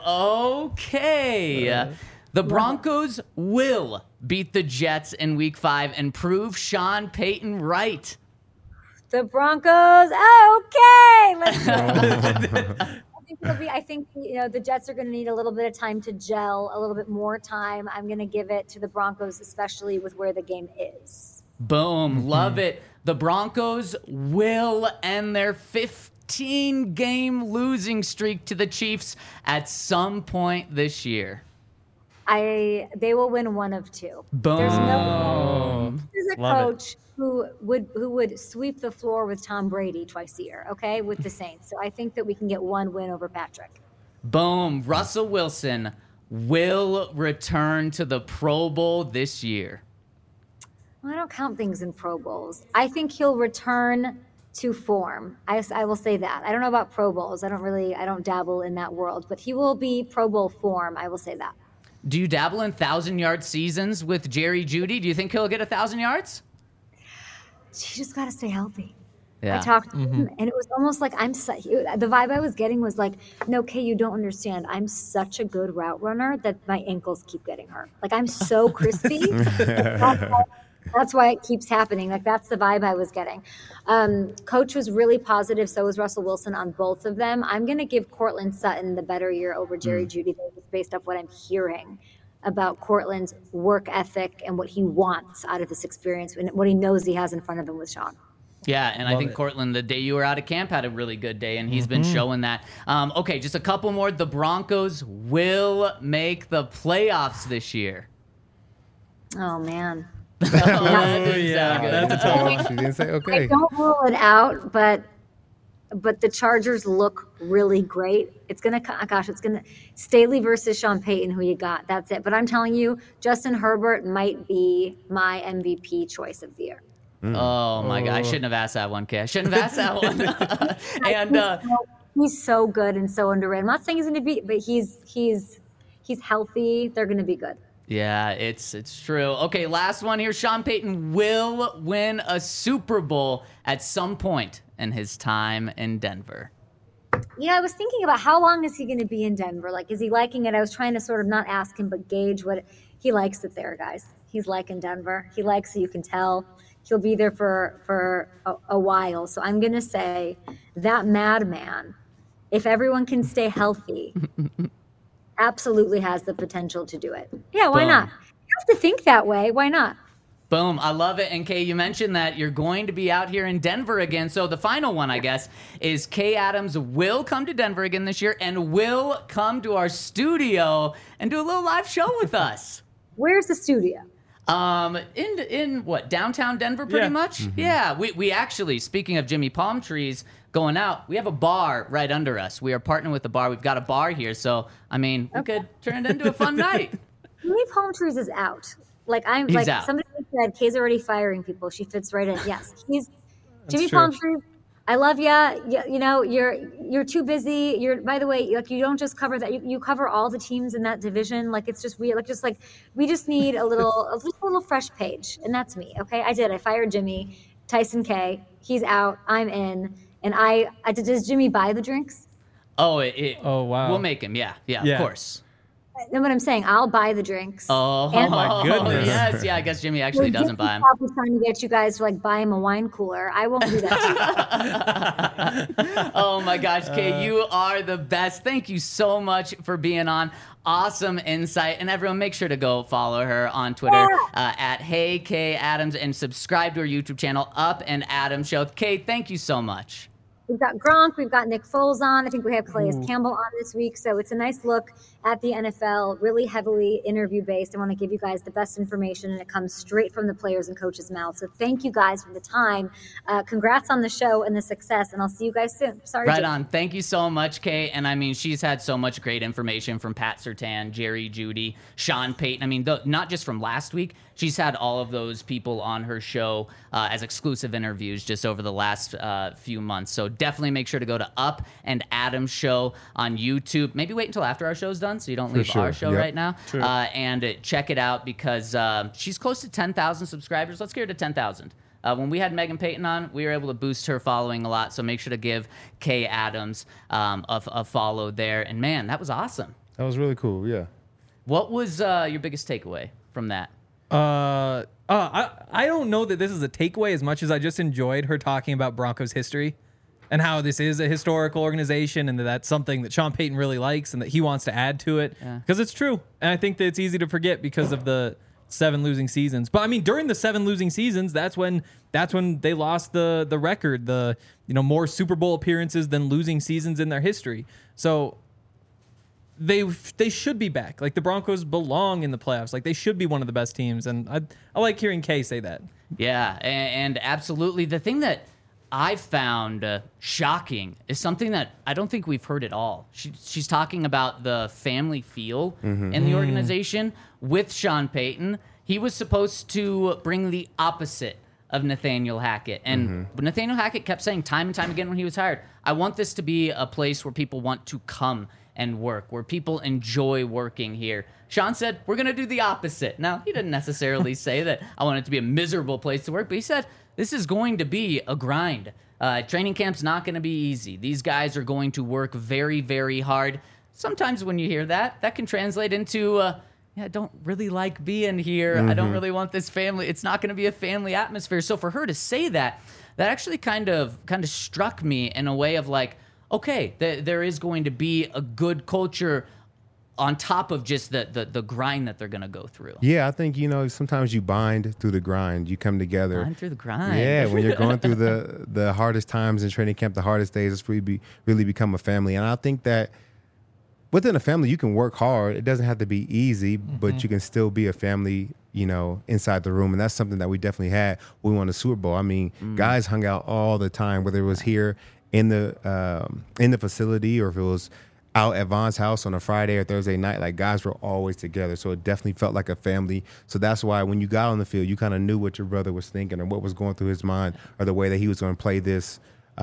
OK. The Broncos will beat the Jets in Week 5 and prove Sean Payton right. The Broncos, okay. Let's go. I think the Jets are going to need a little bit of time to gel, a little bit more time. I'm going to give it to the Broncos, especially with where the game is. Boom. Love it. The Broncos will end their 15-game losing streak to the Chiefs at some point this year. They will win one of two. Boom. There's a coach who would sweep the floor with Tom Brady twice a year, okay, with the Saints. So I think that we can get one win over Patrick. Boom. Russell Wilson will return to the Pro Bowl this year. Well, I don't count things in Pro Bowls. I think he'll return to form. I will say that. I don't know about Pro Bowls. I don't dabble in that world, but he will be Pro Bowl form. I will say that. Do you dabble in 1,000-yard seasons with Jerry Jeudy? Do you think he'll get 1,000 yards? She just got to stay healthy. Yeah. I talked to him, and it was almost like the vibe I was getting was like, no, Kay, you don't understand. I'm such a good route runner that my ankles keep getting hurt. Like, I'm so crispy. That's why it keeps happening. Like, that's the vibe I was getting. Coach was really positive. So was Russell Wilson on both of them. I'm going to give Courtland Sutton the better year over Jerry Jeudy, based off what I'm hearing about Courtland's work ethic and what he wants out of this experience and what he knows he has in front of him with Sean. Yeah, and I think Courtland, the day you were out of camp, had a really good day, and he's been showing that. Okay, just a couple more. The Broncos will make the playoffs this year. Oh, man. That's a tough one. She didn't say okay. I don't rule it out, but the Chargers look really great. It's going to Staley versus Sean Payton, who you got. That's it. But I'm telling you, Justin Herbert might be my MVP choice of the year. Oh, my God. I shouldn't have asked that one, Kay. I shouldn't have asked that one. And he's so good and so underrated. I'm not saying he's going to be, but he's healthy. They're going to be good. Yeah, it's true. Okay, last one here. Sean Payton will win a Super Bowl at some point in his time in Denver. Yeah, I was thinking about how long is he going to be in Denver? Like, is he liking it? I was trying to sort of not ask him, but gauge what he likes it there, guys. He's liking Denver. He likes it. You can tell. He'll be there for a while. So I'm going to say that madman, if everyone can stay healthy, absolutely has the potential to do it. Yeah, why not? You have to think that way. Why not? Boom. I love it. And Kay, you mentioned that you're going to be out here in Denver again. So the final one, I guess, is Kay Adams will come to Denver again this year and will come to our studio and do a little live show with us. Where's the studio? In what, downtown Denver, pretty much? Mm-hmm. Yeah. We actually, speaking of Jimmy Palmtrees going out, we have a bar right under us. We are partnering with the bar. We've got a bar here. So, I mean, we could turn it into a fun night. Jimmy Palmtrees is out. He's out. Somebody said Kay's already firing people. She fits right in. Yes. Jimmy Palmtrees. I love ya. You know, you're too busy. By the way, like, you don't just cover that. You cover all the teams in that division. Like, it's just weird. Like, we just need a little fresh page, and that's me. Okay, I fired Jimmy. Tyson K. He's out. I'm in. And does Jimmy buy the drinks? Oh, wow. We'll make him. Yeah, of course. Know what I'm saying? I'll buy the drinks. Oh, And- my goodness. Yes, yeah. I guess Jimmy actually doesn't buy them. I'll be trying to get you guys to like buy him a wine cooler. I won't do that to you. Oh my gosh, Kay, you are the best. Thank you so much for being on. Awesome insight. And everyone, make sure to go follow her on Twitter at Hey Kay Adams and subscribe to her YouTube channel, Up and Adams Show. Kay, thank you so much. We've got Gronk, we've got Nick Foles on. I think we have Calais Campbell on this week. So it's a nice look at the NFL, really heavily interview based. I want to give you guys the best information, and it comes straight from the players and coaches' mouths. So thank you guys for the time. Congrats on the show and the success, and I'll see you guys soon. Sorry. Right Jake. on. Thank you so much, Kay. And I mean, she's had so much great information from Pat Surtain, Jerry Jeudy, Sean Payton. I mean, not just from last week. She's had all of those people on her show as exclusive interviews just over the last few months. So definitely make sure to go to Up and Adams Show on YouTube. Maybe wait until after our show's done so you don't leave our show right now. And check it out because she's close to 10,000 subscribers. Let's get her to 10,000. When we had Megan Payton on, we were able to boost her following a lot. So make sure to give Kay Adams a follow there. And man, that was awesome. That was really cool. Yeah. What was your biggest takeaway from that? I don't know that this is a takeaway as much as I just enjoyed her talking about Broncos history and how this is a historical organization and that that's something that Sean Payton really likes and that he wants to add to it because it's true. And I think that it's easy to forget because of the 7 losing seasons. But I mean, during the 7 losing seasons, that's when they lost the record, more Super Bowl appearances than losing seasons in their history. So they should be back. Like the Broncos belong in the playoffs. Like they should be one of the best teams. And I like hearing Kay say that. Yeah, and absolutely. The thing that I found shocking is something that I don't think we've heard at all. She's talking about the family feel in the organization with Sean Payton. He was supposed to bring the opposite of Nathaniel Hackett. And Nathaniel Hackett kept saying time and time again when he was hired, I want this to be a place where people want to come and work, where people enjoy working here. Sean said, we're going to do the opposite. Now, he didn't necessarily say that I want it to be a miserable place to work, but he said, this is going to be a grind. Training camp's not going to be easy. These guys are going to work very, very hard. Sometimes when you hear that, that can translate into, I don't really like being here. I don't really want this family. It's not going to be a family atmosphere. So for her to say that, that actually kind of struck me in a way of like, okay, there is going to be a good culture on top of just the grind that they're going to go through. Yeah, I think, sometimes you bind through the grind. You come together. Bind through the grind. Yeah, when you're going through the hardest times in training camp, the hardest days, it's really become a family. And I think that within a family, you can work hard. It doesn't have to be easy, but you can still be a family, inside the room. And that's something that we definitely had when we won the Super Bowl. I mean, guys hung out all the time, whether it was here in the facility or if it was out at Von's house on a Friday or Thursday night. Like, guys were always together, so it definitely felt like a family. So that's why when you got on the field, you kind of knew what your brother was thinking or what was going through his mind or the way that he was going to play this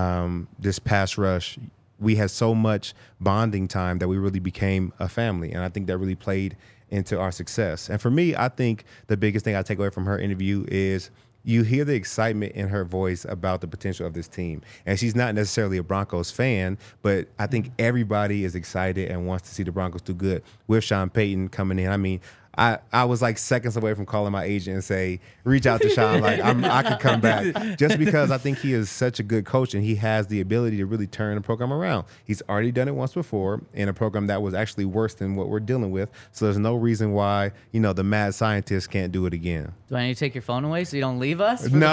pass rush. We had so much bonding time that we really became a family, and I think that really played into our success. And for me, I think the biggest thing I take away from her interview is you hear the excitement in her voice about the potential of this team. And she's not necessarily a Broncos fan, but I think everybody is excited and wants to see the Broncos do good with Sean Payton coming in. I mean, I was like seconds away from calling my agent and say, reach out to Sean, like I could come back, just because I think he is such a good coach and he has the ability to really turn the program around. He's already done it once before in a program that was actually worse than what we're dealing with. So there's no reason why, the mad scientist can't do it again. Do I need to take your phone away so you don't leave us? No,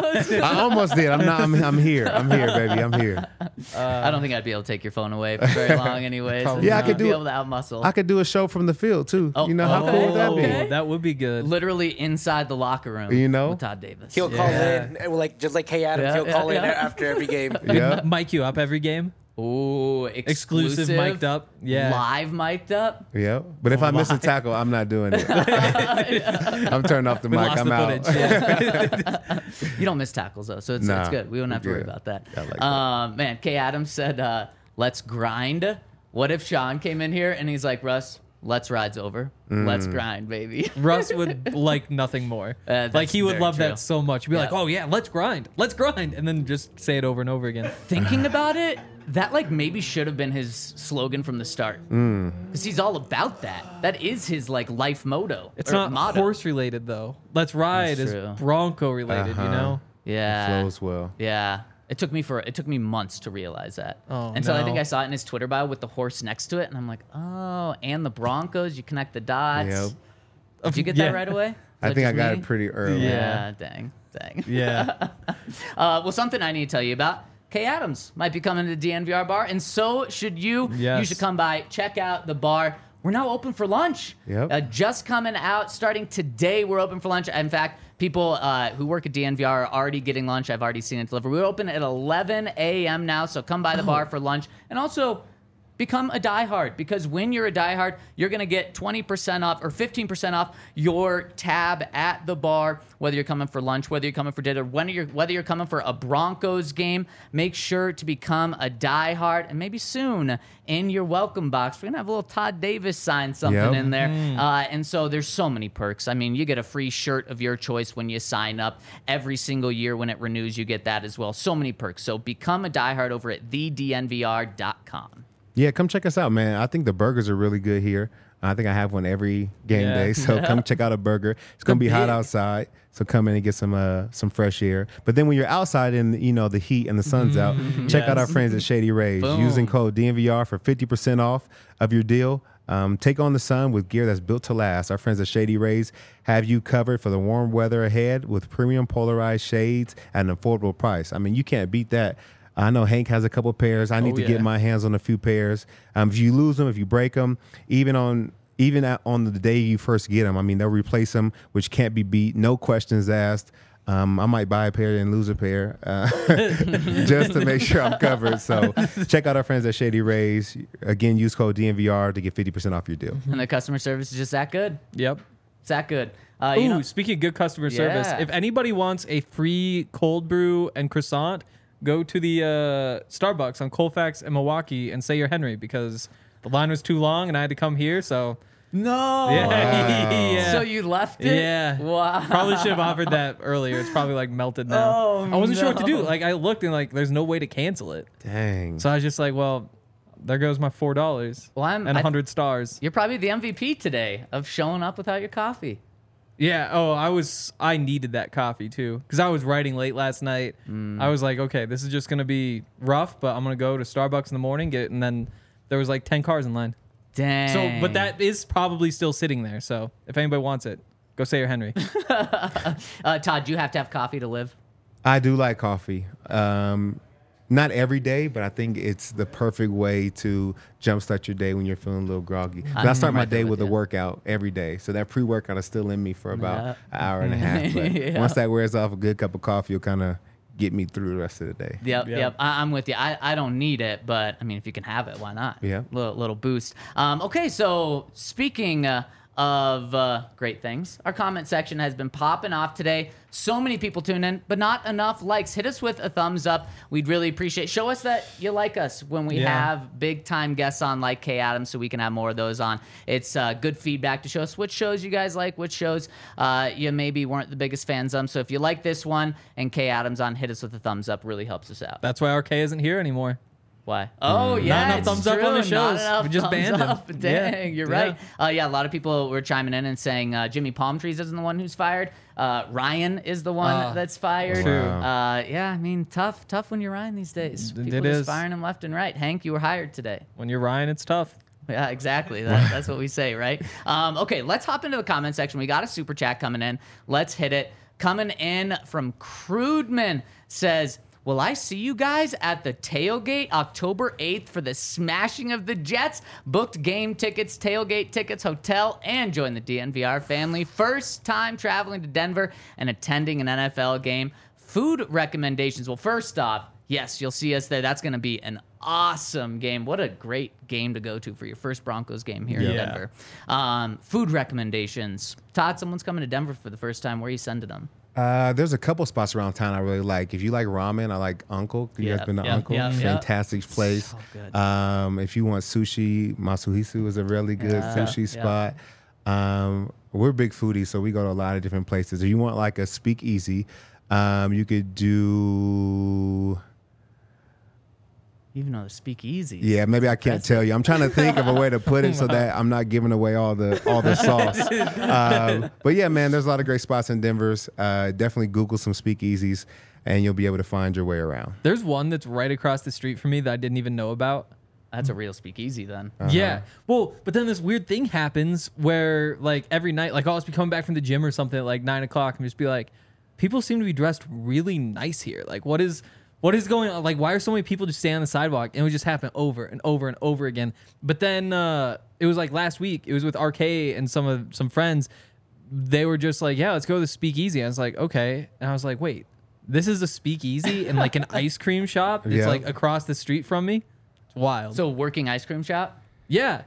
I almost did. I'm here. I'm here, baby. I'm here. I don't think I'd be able to take your phone away for very long anyways. Yeah, I could be able to outmuscle. I could do a show from the field too. How cool would that be? Oh, that would be good. Literally inside the locker room, with Todd Davis. He'll call in, just like Kay Adams. He'll call in after every game. Yeah, mic you up every game. Ooh, exclusive mic'd up. Yeah, live mic'd up. Yeah, but if I miss a tackle, I'm not doing it. I'm turning off the mic. I'm out. Yeah. You don't miss tackles though, so it's good. We don't have to worry about that. I like that. Man, Kay Adams said, "Let's grind." What if Sean came in here and he's like, "Russ, Let's ride's over. Let's grind, baby. Russ would like nothing more. Like he would very love true. that so much. He'd be like, "Oh yeah, let's grind, and then just say it over and over again. Thinking about it, that like maybe should have been his slogan from the start. Because he's all about that. That is his like life motto. It's or not motto. horse related though. Let's ride That's is true. Bronco related. You know. Yeah. Flows well. Yeah. It took me months to realize that. Oh, Until I think no. I saw it in his Twitter bio with the horse next to it, and I'm like, oh, and the Broncos. You connect the dots. Yep. Did you get Yeah. that right away? I Was think I just got me? it pretty early. Yeah. Dang. Yeah. Well, something I need to tell you about. Kay Adams might be coming to the DNVR bar, and so should you. Yes. You should come by, check out the bar. We're now open for lunch. Yep. Just coming out, starting today, we're open for lunch. In fact, people who work at DNVR are already getting lunch. I've already seen it delivered. We're open at 11 a.m. now, so come by the bar for lunch. And also, become a diehard, because when you're a diehard, you're going to get 20% off or 15% off your tab at the bar, whether you're coming for lunch, whether you're coming for dinner, whether you're coming for a Broncos game. Make sure to become a diehard, and maybe soon in your welcome box, we're going to have a little Todd Davis sign something Yep. in there. And so there's so many perks. I mean, you get a free shirt of your choice when you sign up. Every single year when it renews, you get that as well. So many perks. So become a diehard over at thednvr.com. Yeah, come check us out, man. I think the burgers are really good here. I think I have one every game Yeah. day, so come check out a burger. It's gonna be hot big. outside, so come in and get some fresh air. But then when you're outside and the heat and the sun's out, check out our friends at Shady Rays. Boom. Using code DNVR for 50% off of your deal. Take on the sun with gear that's built to last. Our friends at Shady Rays have you covered for the warm weather ahead with premium polarized shades at an affordable price. I mean, you can't beat that. I know Hank has a couple pairs. I need to get my hands on a few pairs. If you lose them, if you break them, even on the day you first get them, I mean, they'll replace them, which can't be beat. No questions asked. I might buy a pair and lose a pair just to make sure I'm covered. So check out our friends at Shady Rays. Again, use code DNVR to get 50% off your deal. And the customer service is just that good. Yep. It's that good. Ooh, speaking of good customer service, Yeah. if anybody wants a free cold brew and croissant, go to the Starbucks on Colfax and Milwaukee and say you're Henry, because the line was too long and I had to come here. So No. yeah, yeah. So you left it? Yeah. Wow. Probably should have offered that earlier. It's probably like melted now. Oh, I wasn't sure what to do. no. Like I looked and like there's no way to cancel it. Dang. So I was just like, well, there goes my $4 Well, and 100 stars. You're probably the MVP today of showing up without your coffee. Yeah. Oh, I needed that coffee too, because I was writing late last night. I was like, okay, this is just gonna be rough, but I'm gonna go to Starbucks in the morning, get it, and then there was like 10 cars in line. Dang. So, but that is probably still sitting there. So if anybody wants it, go say you're Henry. Todd, do you have to have coffee to live? I do like coffee. Not every day, but I think it's the perfect way to jumpstart your day when you're feeling a little groggy. But I start my right there day with with a you. workout every day. So that pre-workout is still in me for about an hour and a half. But Yeah. once that wears off, a good cup of coffee will kind of get me through the rest of the day. Yep. I'm with you. I don't need it, but I mean, if you can have it, why not? Yeah. Little boost. Okay, so speaking of great things, our comment section has been popping off today. So many people tune in, but not enough likes. Hit us with a thumbs up. We'd really appreciate. Show us that you like us when we have big time guests on like Kay Adams, so we can have more of those on. It's good feedback to show us which shows you guys like, which shows you maybe weren't the biggest fans of. So if you like this one and Kay Adams on, hit us with a thumbs up. Really helps us out. That's why RK isn't here anymore. Why? Oh, yeah. Not enough it's thumbs up on the true. shows. Not enough We just thumbs banned him. up. Dang, Yeah. you're Yeah. right. Yeah, a lot of people were chiming in and saying Jimmy Palmtrees isn't the one who's fired. Ryan is the one that's fired. True. Yeah, I mean, tough when you're Ryan these days. People It just is. firing him left and right. Hank, you were hired today. When you're Ryan, it's tough. Yeah, exactly. That's what we say, right? Okay, let's hop into the comment section. We got a super chat coming in. Let's hit it. Coming in from Crudeman says, will I see you guys at the tailgate October 8th for the smashing of the Jets? Booked game tickets, tailgate tickets, hotel, and join the DNVR family. First time traveling to Denver and attending an NFL game. Food recommendations. Well, first off, yes, you'll see us there. That's going to be an awesome game. What a great game to go to for your first Broncos game here in Yeah. Denver. Food recommendations. Todd, someone's coming to Denver for the first time. Where are you sending them? There's a couple spots around town I really like. If you like ramen, I like Uncle. You guys been to Uncle? Fantastic place. So good. If you want sushi, Masuhisu is a really good sushi spot. We're big foodies, so we go to a lot of different places. If you want like a speakeasy, you could do... Even though the speakeasy. Yeah, maybe I can't tell you. I'm trying to think of a way to put it so that I'm not giving away all the sauce. But yeah, man, there's a lot of great spots in Denver's. Definitely Google some speakeasies, and you'll be able to find your way around. There's one that's right across the street from me that I didn't even know about. That's a real speakeasy then. Yeah. Well, but then this weird thing happens where like every night, like I'll just be coming back from the gym or something at like 9 o'clock and just be like, people seem to be dressed really nice here. Like what is going on? Like, why are so many people just standing on the sidewalk? And it would just happen over and over and over again. But then it was like last week. It was with RK and some friends. They were just like, yeah, let's go to the speakeasy. I was like, okay. And I was like, wait, this is a speakeasy and like an ice cream shop that's like across the street from me? It's wild. So working ice cream shop? Yeah.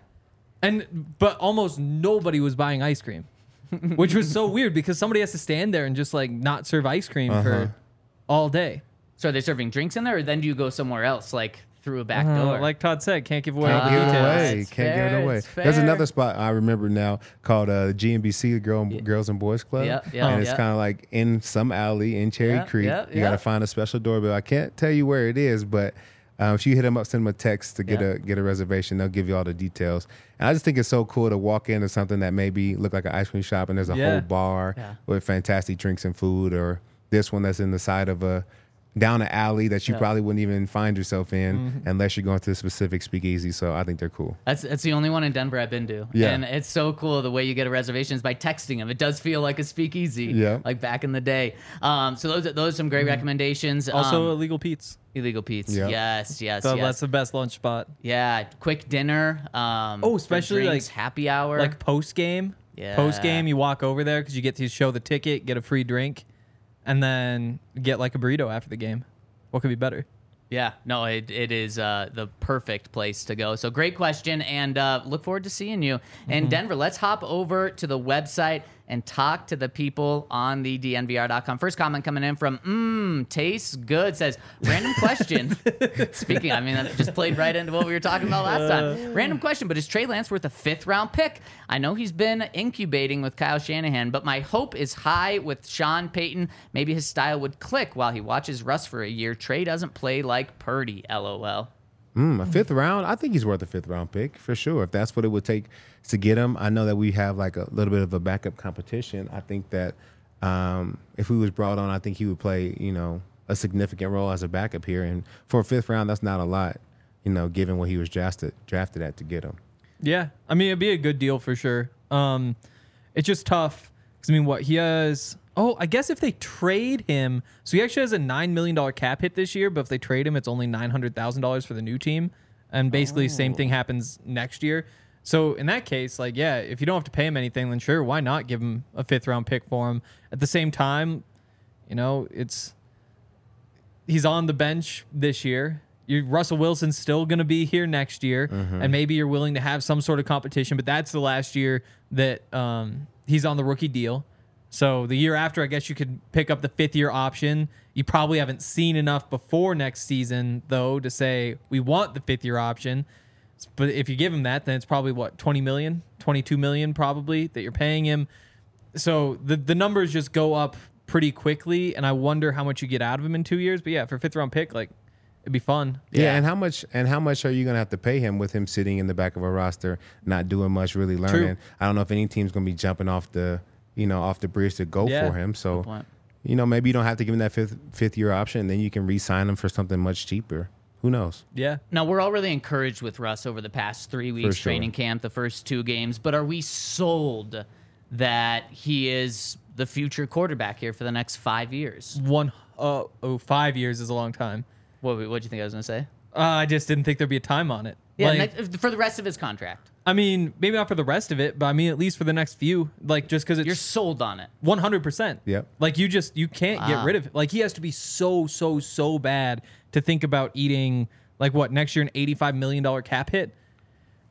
But almost nobody was buying ice cream, which was so weird because somebody has to stand there and just like not serve ice cream for all day. So are they serving drinks in there, or then do you go somewhere else, like through a back door? Like Todd said, can't give away all Can't the give it details. away. Can't give it away. There's another spot I remember now called GNBC, Girls and Boys Club. And it's kind of like in some alley in Cherry Creek. You got to find a special doorbell. I can't tell you where it is, but if you hit them up, send them a text to get a reservation. They'll give you all the details. And I just think it's so cool to walk into something that maybe look like an ice cream shop and there's a whole bar with fantastic drinks and food, or this one that's in the side of down an alley that you probably wouldn't even find yourself in unless you're going to a specific speakeasy. So I think they're cool. That's the only one in Denver I've been to. Yeah. And it's so cool the way you get a reservation is by texting them. It does feel like a speakeasy, like back in the day. So those are some great recommendations. Also, Illegal Pete's. Illegal Pete's. Yep. Yes. So that's the best lunch spot. Yeah, quick dinner. Especially drinks, like happy hour. Like post game. Yeah. Post game, you walk over there because you get to show the ticket, get a free drink, and then get like a burrito after the game. What could be better? Yeah, no, it is the perfect place to go. So great question, and look forward to seeing you in Denver. Let's hop over to the website and talk to the people on the DNVR.com. First comment coming in from tastes good, says, random question. Speaking, I mean, that just played right into what we were talking about last time. Random question, but is Trey Lance worth a 5th round pick? I know he's been incubating with Kyle Shanahan, but my hope is high with Sean Payton. Maybe his style would click while he watches Russ for a year. Trey doesn't play like Purdy, LOL. A 5th round? I think he's worth a 5th round pick for sure. If that's what it would take to get him. I know that we have like a little bit of a backup competition. I think that if he was brought on, I think he would play, a significant role as a backup here. And for a 5th round, that's not a lot, given what he was drafted at to get him. Yeah. I mean, it'd be a good deal for sure. It's just tough because, what he has... Oh, I guess if they trade him, so he actually has a $9 million cap hit this year, but if they trade him, it's only $900,000 for the new team. And basically same thing happens next year. So in that case, if you don't have to pay him anything, then sure, why not give him a 5th round pick for him? At the same time, he's on the bench this year. Russell Wilson's still going to be here next year, and maybe you're willing to have some sort of competition, but that's the last year that he's on the rookie deal. So the year after, I guess you could pick up the 5th year option. You probably haven't seen enough before next season, though, to say we want the 5th year option. But if you give him that, then it's probably what, 20 million, 22 million probably that you're paying him. So the numbers just go up pretty quickly, and I wonder how much you get out of him in 2 years. But yeah, for a 5th round pick, it'd be fun. Yeah, and how much are you gonna have to pay him with him sitting in the back of a roster, not doing much, really learning? True. I don't know if any team's gonna be jumping off the bridge to go for him. So maybe you don't have to give him that fifth year option, and then you can re-sign him for something much cheaper. Who knows? Yeah. Now, we're all really encouraged with Russ over the past 3 weeks, training camp, the first 2 games, but are we sold that he is the future quarterback here for the next 5 years? 5 years is a long time. What do you think I was going to say? I just didn't think there'd be a time on it. Yeah, for the rest of his contract. I mean, maybe not for the rest of it, but I mean, at least for the next few, just because you're sold on it. 100%. Yep. You can't get rid of it. He has to be so bad to think about eating, next year, an $85 million cap hit.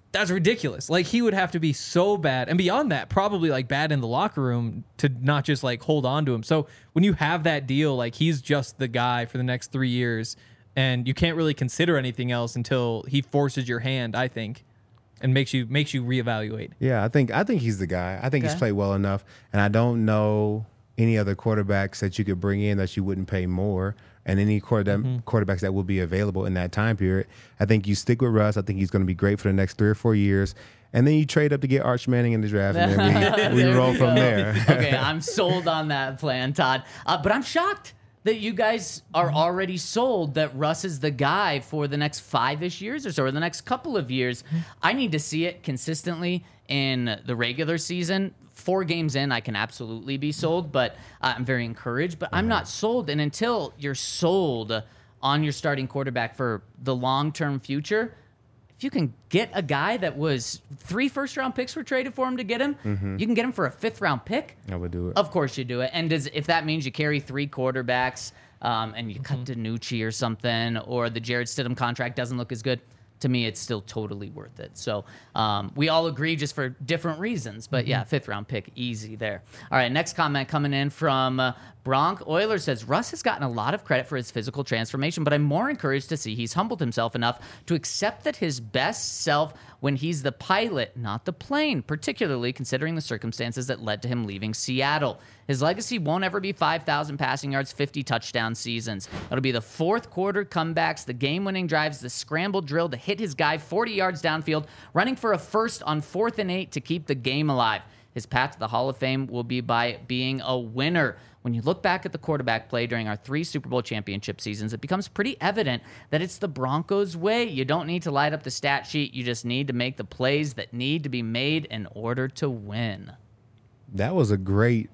that's ridiculous. Like, he would have to be so bad. And beyond that, probably like bad in the locker room to not just like hold on to him. So when you have that deal, like he's just the guy for the next 3 years and you can't really consider anything else until he forces your hand, I think, and makes you reevaluate. Yeah, I think he's the guy. I think he's played well enough. And I don't know any other quarterbacks that you could bring in that you wouldn't pay more, and any quarterbacks that will be available in that time period. I think you stick with Russ. I think he's going to be great for the next 3 or 4 years. And then you trade up to get Arch Manning in the draft, and then we roll from there. Okay, I'm sold on that plan, Todd. But I'm shocked that you guys are already sold that Russ is the guy for the next 5-ish years or so, or the next couple of years. I need to see it consistently in the regular season. 4 games in, I can absolutely be sold, but I'm very encouraged. But I'm not sold. And until you're sold on your starting quarterback for the long-term future, if you can get a guy that was 3 first-round picks were traded for him to get him, you can get him for a 5th-round pick. I would do it. Of course you do it. And if that means you carry 3 quarterbacks and you cut DiNucci or something, or the Jared Stidham contract doesn't look as good, to me, it's still totally worth it. So we all agree just for different reasons. But yeah, 5th-round pick, easy there. All right, next comment coming in from Bronk Euler says, Russ has gotten a lot of credit for his physical transformation, but I'm more encouraged to see he's humbled himself enough to accept that his best self when he's the pilot, not the plane, particularly considering the circumstances that led to him leaving Seattle. His legacy won't ever be 5,000 passing yards, 50 touchdown seasons. It'll be the 4th quarter comebacks, the game-winning drives, the scramble drill to hit his guy 40 yards downfield, running for a first on 4th and 8 to keep the game alive. His path to the Hall of Fame will be by being a winner. When you look back at the quarterback play during our 3 Super Bowl championship seasons, it becomes pretty evident that it's the Broncos' way. You don't need to light up the stat sheet. You just need to make the plays that need to be made in order to win. That was a great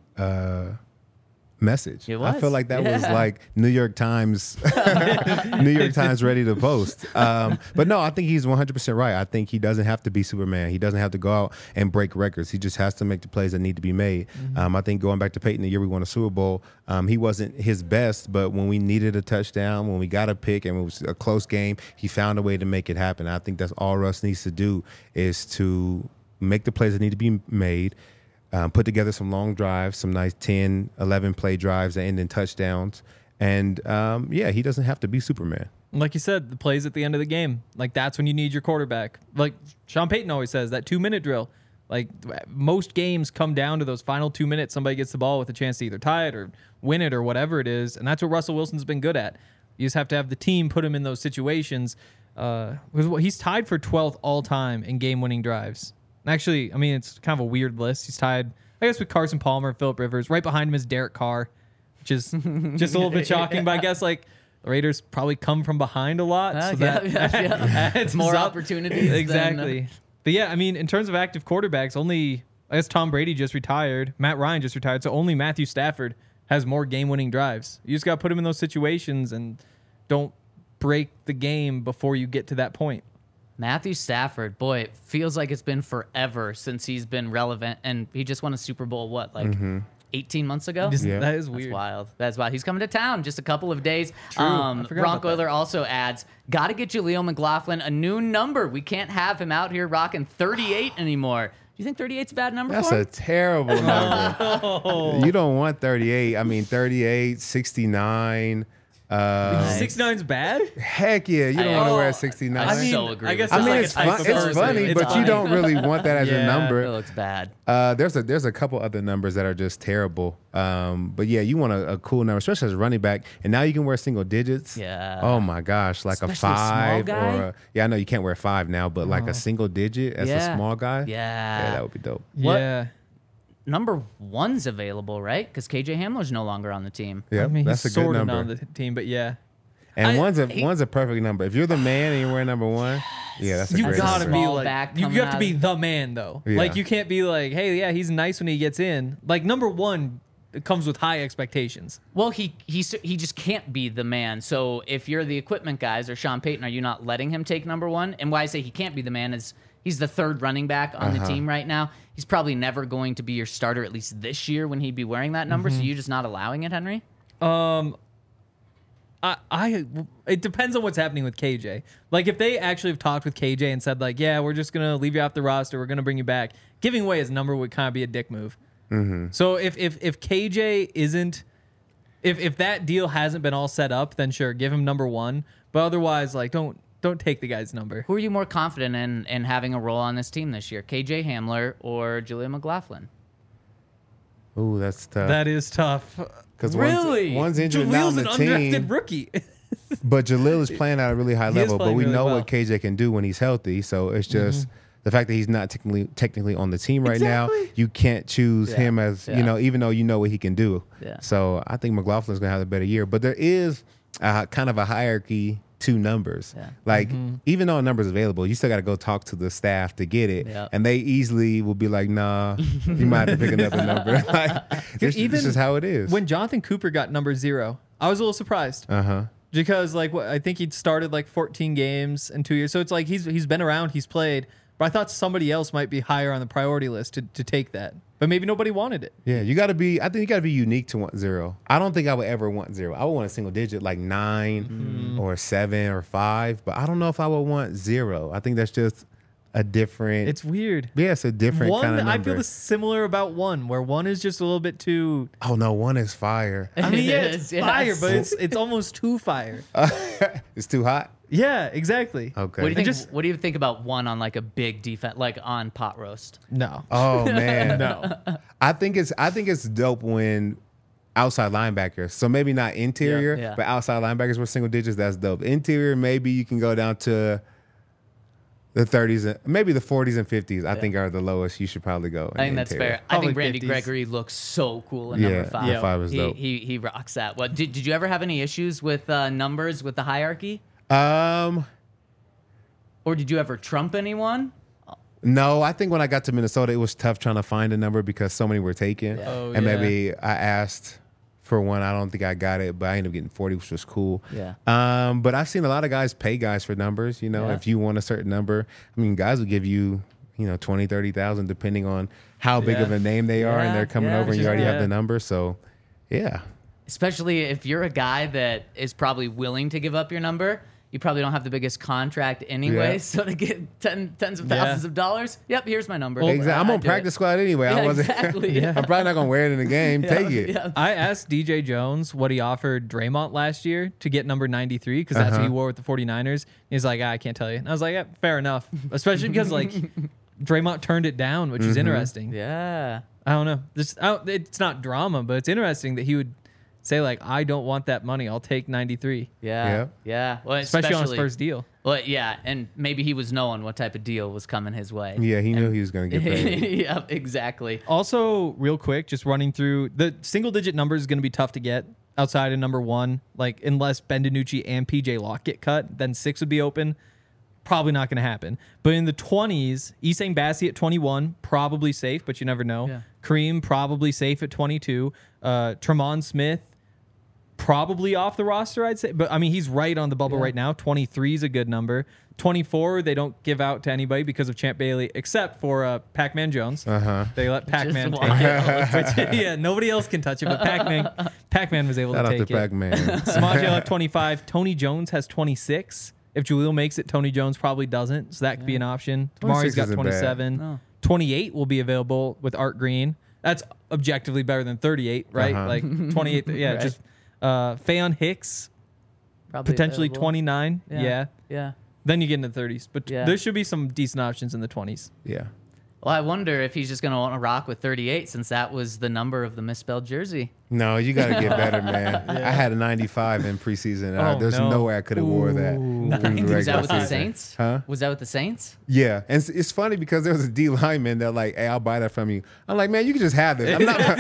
message. It was. I feel like that was like New York Times ready to post. But no, I think he's 100% right. I think he doesn't have to be Superman. He doesn't have to go out and break records. He just has to make the plays that need to be made. I think going back to Peyton, the year we won a Super Bowl, he wasn't his best, but when we needed a touchdown, when we got a pick and it was a close game, he found a way to make it happen. I think that's all Russ needs to do, is to make the plays that need to be made, put together some long drives, some nice 10, 11 play drives that end in touchdowns. And, he doesn't have to be Superman. Like you said, the plays at the end of the game. Like, that's when you need your quarterback. Like Sean Payton always says, that 2-minute drill. Like, most games come down to those final 2 minutes. Somebody gets the ball with a chance to either tie it or win it or whatever it is. And that's what Russell Wilson's been good at. You just have to have the team put him in those situations. He's tied for 12th all-time in game-winning drives. Actually, I mean, it's kind of a weird list. He's tied, I guess, with Carson Palmer, Phillip Rivers. Right behind him is Derek Carr, which is just a little bit shocking. But I guess, like, the Raiders probably come from behind a lot. So that adds more up. opportunities. Exactly. But yeah, I mean, in terms of active quarterbacks, only, I guess Tom Brady just retired. Matt Ryan just retired. So only Matthew Stafford has more game-winning drives. You just got to put him in those situations and don't break the game before you get to that point. Matthew Stafford, boy, it feels like it's been forever since he's been relevant, and he just won a Super Bowl, 18 months ago? That is weird. That's wild. That's wild. He's coming to town just a couple of days. True. Bronk Euler also adds, got to get Jaleel McLaughlin a new number. We can't have him out here rocking 38 anymore. Do you think 38's a bad number That's for him? a terrible number. You don't want 38. I mean, 38, 69. 69's bad? Heck yeah, you don't want to wear 69. I so agree. I guess I mean, like it's funny, but you don't really want that as a It number. looks bad. There's a couple other numbers that are just terrible. But yeah, you want a cool number, especially as a running back. And now you can wear single digits. Yeah. Oh my gosh, like Especially a 5 small guy? or I know you can't wear 5 now, but like a single digit as a small guy. Yeah. that would be dope. What? Yeah. Number 1's available, right? Because KJ Hamler's no longer on the team. Yeah, I mean, that's a he's good sort of number. on the team, but yeah. And one's a perfect number. If you're the man and you're wearing number 1, yeah, that's a You great gotta number. be Small like, back you coming have to out be of- the man though. Yeah. Like, you can't be like, hey, yeah, he's nice when he gets in. Like, number 1, it comes with high expectations. Well, he just can't be the man. So if you're the equipment guys or Sean Payton, are you not letting him take number 1? And why I say he can't be the man is he's the 3rd running back on the team right now. He's probably never going to be your starter, at least this year, when he'd be wearing that number. So you're just not allowing it, Henry? It depends on what's happening with KJ. Like if they actually have talked with KJ and said like, yeah, we're just gonna leave you off the roster, we're gonna bring you back. Giving away his number would kind of be a dick move. Mm-hmm. So if KJ isn't, if that deal hasn't been all set up, then sure, give him number 1. But otherwise, like don't take the guy's number. Who are you more confident in having a role on this team this year, KJ Hamler or Julian McLaughlin? Ooh, that's tough. That is tough. Because really? one's injured now on Jalil's the an team. undrafted rookie. But Jalil is playing at a really high He is level. But playing we really know well. what KJ can do when he's healthy. So it's just the fact that he's not technically on the team right now. You can't choose him as even though you know what he can do. Yeah. So I think McLaughlin's gonna have a better year. But there is kind of a hierarchy to numbers. Yeah. Like even though a number's available, you still got to go talk to the staff to get it, Yep. and they easily will be like, "Nah, you might have to pick another number." Like, this is how it is. When Jonathan Cooper got number 0, I was a little surprised. Because like I think he'd started like 14 games in 2 years, so it's like he's been around, he's played. But I thought somebody else might be higher on the priority list to take that. But maybe nobody wanted it. Yeah, I think you got to be unique to want 0. I don't think I would ever want 0. I would want a single digit like 9 or 7 or 5, but I don't know if I would want 0. I think that's just a different. It's weird. Yeah, it's a different 1, kind of number. I feel similar about 1, where 1 is just a little bit too. Oh no, 1 is fire. I mean, yeah, It it's is, fire, yes. but it's almost too fire. It's too hot. Yeah, exactly. Okay. What do you think about 1 on like a big defense, like on pot roast? No. Oh man, No. I think it's dope when outside linebackers. So maybe not interior, Yeah. but outside linebackers with single digits. That's dope. Interior, maybe you can go down to the 30s, maybe the 40s and 50s. I think are the lowest. You should probably go. I think that's interior. fair. I think Probably Randy 50s. Gregory looks so cool in Yeah, number 5. number 5 is dope. He rocks that. What did you ever have any issues with numbers with the hierarchy? Or did you ever trump anyone? No, I think when I got to Minnesota, it was tough trying to find a number because so many were taken. Oh, and yeah. maybe I asked for 1. I don't think I got it, but I ended up getting 40, which was cool. Yeah. But I've seen a lot of guys pay guys for numbers. You know, Yeah. if you want a certain number, I mean, guys will give you, 20, 30,000 depending on how big of a name they are, Yeah, and they're coming yeah, over, and you already yeah. have the number. So, yeah. Especially if you're a guy that is probably willing to give up your number. You probably don't have the biggest contract anyway, Yeah. so to get tens of thousands of dollars, yep, here's my number. Exactly. I'm I'd on do practice it. squad anyway. Yeah, I wasn't. exactly. I'm probably not gonna wear it in the game. Take it. Yeah. I asked DJ Jones what he offered Draymond last year to get number 93 because that's what he wore with the 49ers. He's like, I can't tell you. And I was like, yeah, fair enough. Especially because like Draymond turned it down, which is interesting. Yeah. I don't know. It's not drama, but it's interesting that he would say like, I don't want that money. I'll take 93, Yeah. Well, especially on his first deal. Well, yeah, and maybe he was knowing what type of deal was coming his way. Yeah, he knew he was gonna get paid. Yep, exactly. Also, real quick, just running through the single digit number is going to be tough to get outside of number 1. Like unless Ben DiNucci and PJ Locke get cut, then 6 would be open. Probably not going to happen. But in the 20s, Essang Bassey at 21, probably safe, but you never know. Yeah. Kareem probably safe at 22. Tremont Smith probably off the roster, I'd say. But I mean, he's right on the bubble right now. 23 is a good number. 24, they don't give out to anybody because of Champ Bailey, except for Pac-Man Jones. They let Pac-Man take it. Which, yeah, nobody else can touch it, but Pac-Man was able Shout to out take to it. Pac-Man. Samaje at 25. Tony Jones has 26. If Jalil makes it, Tony Jones probably doesn't, so that could be an option. 26 Tamari's got isn't bad. 27. No. 28 will be available with Art Green. That's objectively better than 38, right? Like 28. Yeah, Right. just Fayon Hicks, Probably potentially available. 29. Yeah. Yeah. Then you get into the 30s. But Yeah. there should be some decent options in the 20s. Yeah. Well, I wonder if he's just going to want to rock with 38 since that was the number of the misspelled jersey. No, you got to get better, man. I had a 95 in preseason. Oh, There's no. no way I could have wore that. through the Was that regular with the season. Saints? Huh? Was that with the Saints? Yeah, and it's funny because there was a D lineman that like, hey, I'll buy that from you. I'm like, man, you can just have this.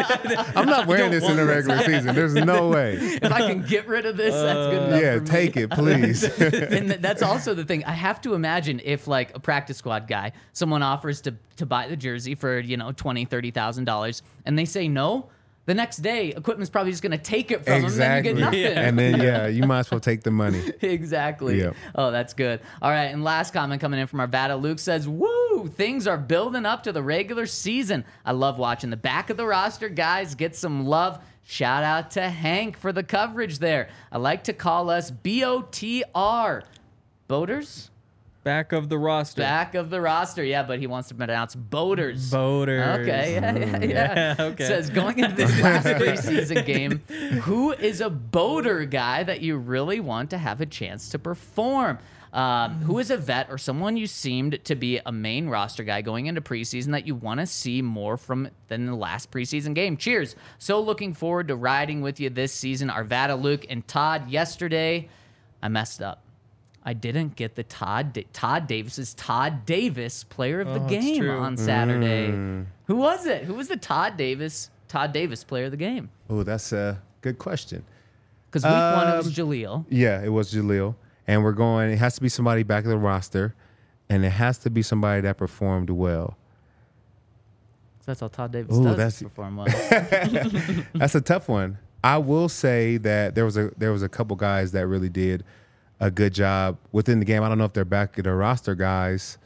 I'm not wearing this in the regular season. There's no way. If I can get rid of this, that's good enough. Yeah, for me. take it, please. And that's also the thing. I have to imagine if like a practice squad guy, someone offers to buy the jersey for, $20,000, $30,000 and they say no, the next day equipment's probably just going to take it from Exactly. them and you get nothing. And then you might as well take the money. Exactly. Yep. Oh, that's good. All right. And last comment coming in from Arvada. Luke says, woo, things are building up to the regular season. I love watching the back of the roster guys get some love. Shout out to Hank for the coverage there. I like to call us BOTR. Boaters? Back of the roster. Back of the roster, yeah, but he wants to pronounce boaters. Boaters. Okay, yeah. Okay. Says, going into this last preseason game, who is a boater guy that you really want to have a chance to perform? Who is a vet or someone you seemed to be a main roster guy going into preseason that you want to see more from than the last preseason game? Cheers. So looking forward to riding with you this season. Arvada, Luke, and Todd. Yesterday, I messed up. I didn't get the Todd Davis player of the game on Saturday. Who was it? Who was the Todd Davis player of the game? Oh, that's a good question. Because week one, it was Jaleel. Yeah, it was Jaleel. And it has to be somebody back of the roster, and it has to be somebody that performed well. That's all Todd Davis does, perform well. That's a tough one. I will say that there was a couple guys that really did a good job within the game. I don't know if they're back of the roster guys.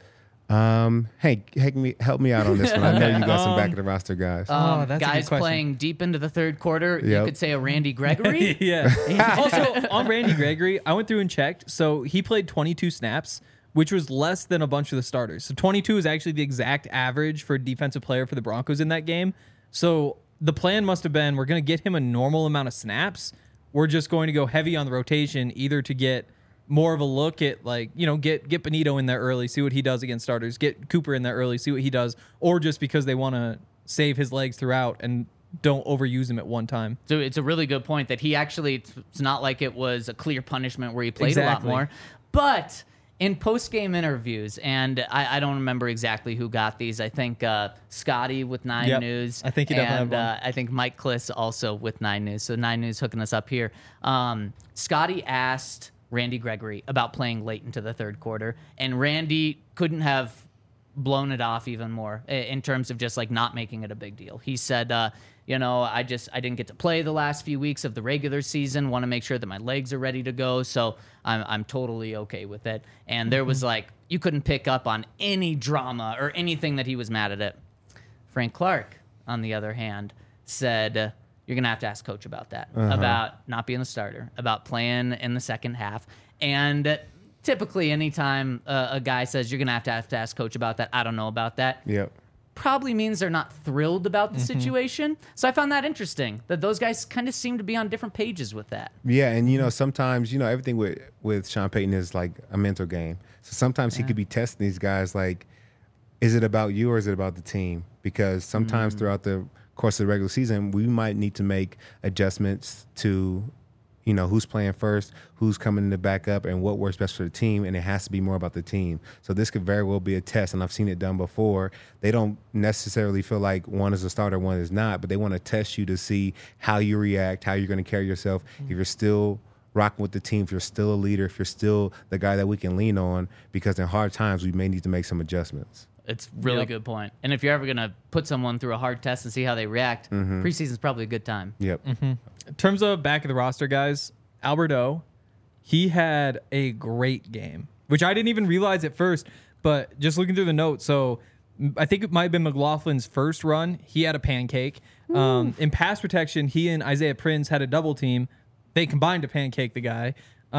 Hey, help me out on this one. I know you got some back of the roster guys. That's guys playing deep into the third quarter. You could say a Randy Gregory. Yeah. Also, on Randy Gregory, I went through and checked. So he played 22 snaps, which was less than a bunch of the starters. So 22 is actually the exact average for a defensive player for the Broncos in that game. So the plan must have been, we're going to get him a normal amount of snaps. We're just going to go heavy on the rotation, either to get more of a look at, like, get Benito in there early, see what he does against starters, get Cooper in there early, see what he does, or just because they want to save his legs throughout and don't overuse him at one time. So it's a really good point that he actually, it's not like it was a clear punishment where he played a lot more. But in post-game interviews, and I don't remember exactly who got these. I think Scotty with 9 News. I think he definitely had one. I think Mike Kliss also with 9 News. So 9 News hooking us up here. Scotty asked Randy Gregory about playing late into the third quarter, and Randy couldn't have blown it off even more in terms of just like not making it a big deal. He said, I didn't get to play the last few weeks of the regular season, want to make sure that my legs are ready to go, so I'm totally okay with it. And there was like, you couldn't pick up on any drama or anything that he was mad at it. Frank Clark, on the other hand, said, you're going to have to ask coach about that, about not being the starter, about playing in the second half. And typically anytime a guy says you're going to have to ask coach about that, I don't know about that. Yep. Probably means they're not thrilled about the situation. So I found that interesting that those guys kind of seem to be on different pages with that. Yeah, and sometimes everything with Sean Payton is like a mental game. So sometimes he could be testing these guys like, is it about you or is it about the team? Because sometimes throughout the course of the regular season, we might need to make adjustments to who's playing first, who's coming in to back up, and what works best for the team, and it has to be more about the team. So this could very well be a test, and I've seen it done before. They don't necessarily feel like one is a starter, one is not, but they want to test you to see how you react, how you're going to carry yourself, if you're still rocking with the team, if you're still a leader, if you're still the guy that we can lean on, because in hard times, we may need to make some adjustments. It's a really good point. And if you're ever going to put someone through a hard test and see how they react, preseason's probably a good time. Yep. In terms of back of the roster guys, Albert O, he had a great game, which I didn't even realize at first, but just looking through the notes. So I think it might have been McLaughlin's first run. He had a pancake. In pass protection, he and Isaiah Prince had a double team. They combined to pancake the guy.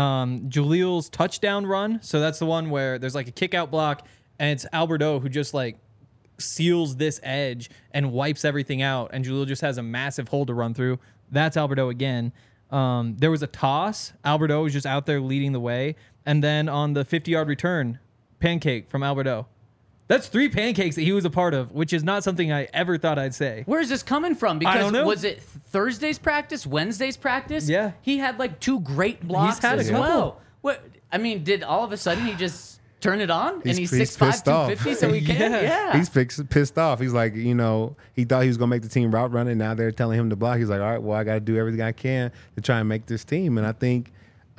Jaleel's touchdown run. So that's the one where there's like a kick out block, and it's Albert O who just like seals this edge and wipes everything out, and Jaleel just has a massive hole to run through. That's Albert O again. There was a toss. Albert O was just out there leading the way. And then on the 50-yard return, pancake from Albert O. That's 3 pancakes that he was a part of, which is not something I ever thought I'd say. Where is this coming from? Because I don't know. Was it Thursday's practice, Wednesday's practice? Yeah. He had like 2 great blocks He's had a as couple. well. What? I mean, did all of a sudden he just turn it on? He's And he's pissed 6'5", off. 250, so he can? Yeah. He's pissed off. He's like, he thought he was going to make the team route running. Now they're telling him to block. He's like, all right, well, I got to do everything I can to try and make this team. And I think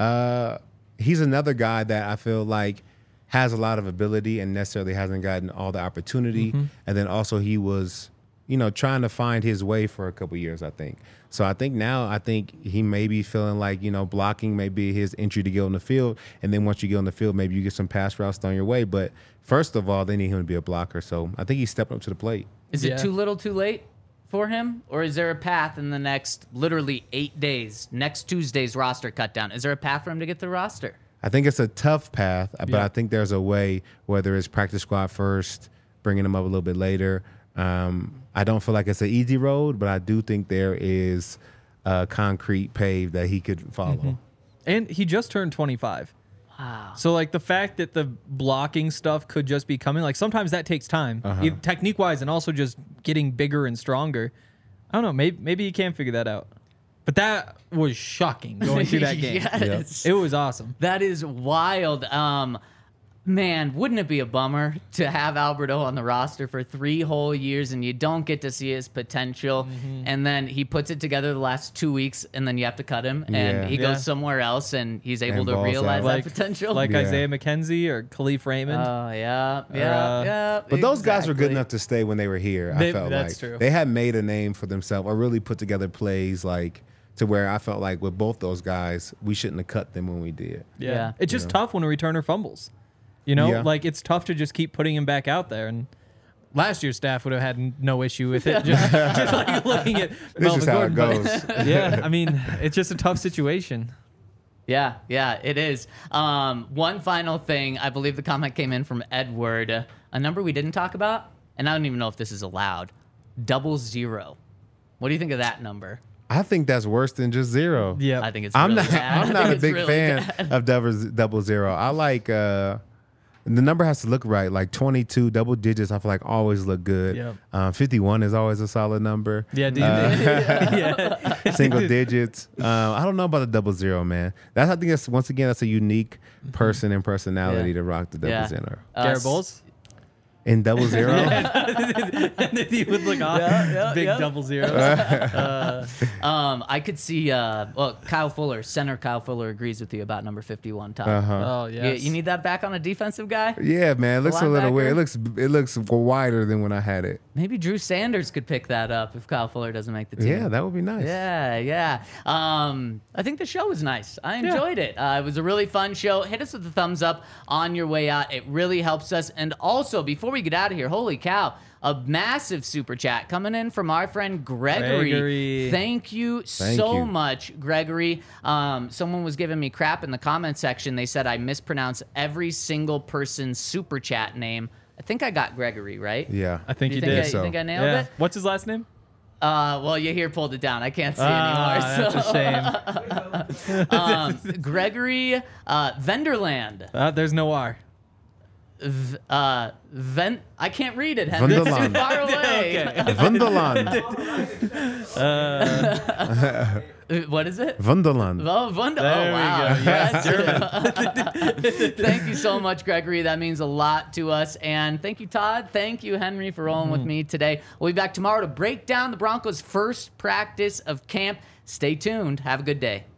he's another guy that I feel like has a lot of ability and necessarily hasn't gotten all the opportunity. And then also he was, trying to find his way for a couple years, I think. So I think he may be feeling like, blocking may be his entry to get on the field. And then once you get on the field, maybe you get some pass routes thrown your way. But first of all, they need him to be a blocker. So I think he's stepping up to the plate. Is it too little too late for him? Or is there a path in the next literally 8 days, next Tuesday's roster cut down? Is there a path for him to get the roster? I think it's a tough path, but I think there's a way, whether it's practice squad first, bringing him up a little bit later. I don't feel like it's an easy road, but I do think there is a concrete pave that he could follow. Mm-hmm. And he just turned 25. Wow. So, like, the fact that the blocking stuff could just be coming, like, sometimes that takes time, technique-wise, and also just getting bigger and stronger. I don't know. Maybe he can figure that out. But that was shocking going through that game. Yes. It was awesome. That is wild. Man, wouldn't it be a bummer to have Alberto on the roster for 3 whole years and you don't get to see his potential, and then he puts it together the last 2 weeks, and then you have to cut him, and he goes somewhere else, and he's able to realize that potential? Like Isaiah McKenzie or Khalif Raymond. Oh, yeah. But those guys were good enough to stay when they were here, I felt that's like. true. They had made a name for themselves or really put together plays like to where I felt like with both those guys, we shouldn't have cut them when we did. Yeah. It's just tough when a returner fumbles. Like, it's tough to just keep putting him back out there. And last year's staff would have had no issue with it. Just like looking at This is Melvin how Gordon. it goes. Yeah, I mean, it's just a tough situation. Yeah, it is. One final thing. I believe the comment came in from Edward. A number we didn't talk about, and I don't even know if this is allowed. 00. What do you think of that number? I think that's worse than just 0. Yeah, I think it's I'm really not. bad. I'm I not think a it's big really fan bad. of 00. I like the number has to look right. Like 22 double digits, I feel like always look good. Yep. 51 is always a solid number. Yeah, do you Single digits. I don't know about the 00, man. I think that's once again that's a unique person and personality to rock the 00. Garrett Bowles? In 00. And then he would look off. Big 00. I could see. Kyle Fuller, center Kyle Fuller agrees with you about number 51. Todd. Oh, yes. You need that back on a defensive guy. Yeah, man. It looks a little Linebacker? weird. It looks wider than when I had it. Maybe Drew Sanders could pick that up if Kyle Fuller doesn't make the team. Yeah, that would be nice. Yeah. I think the show was nice. I enjoyed it. It was a really fun show. Hit us with a thumbs up on your way out. It really helps us. And also, before we get out of here, holy cow, a massive super chat coming in from our friend Gregory. Thank you so much, Gregory. Someone was giving me crap in the comment section. They said I mispronounced every single person's super chat name. I think I got Gregory right. Yeah. I think you think did. You think I nailed it? What's his last name? Well, you here pulled it down. I can't see anymore. That's a shame. Gregory Venderland. There's no R. I can't read it, Henry. It's too Vunderland. far away. Vunderland. What is it? Vunderland. Oh, wow. go. Yes. Thank you so much, Gregory. That means a lot to us. And thank you, Todd. Thank you, Henry, for rolling with me today. We'll be back tomorrow to break down the Broncos' first practice of camp. Stay tuned. Have a good day.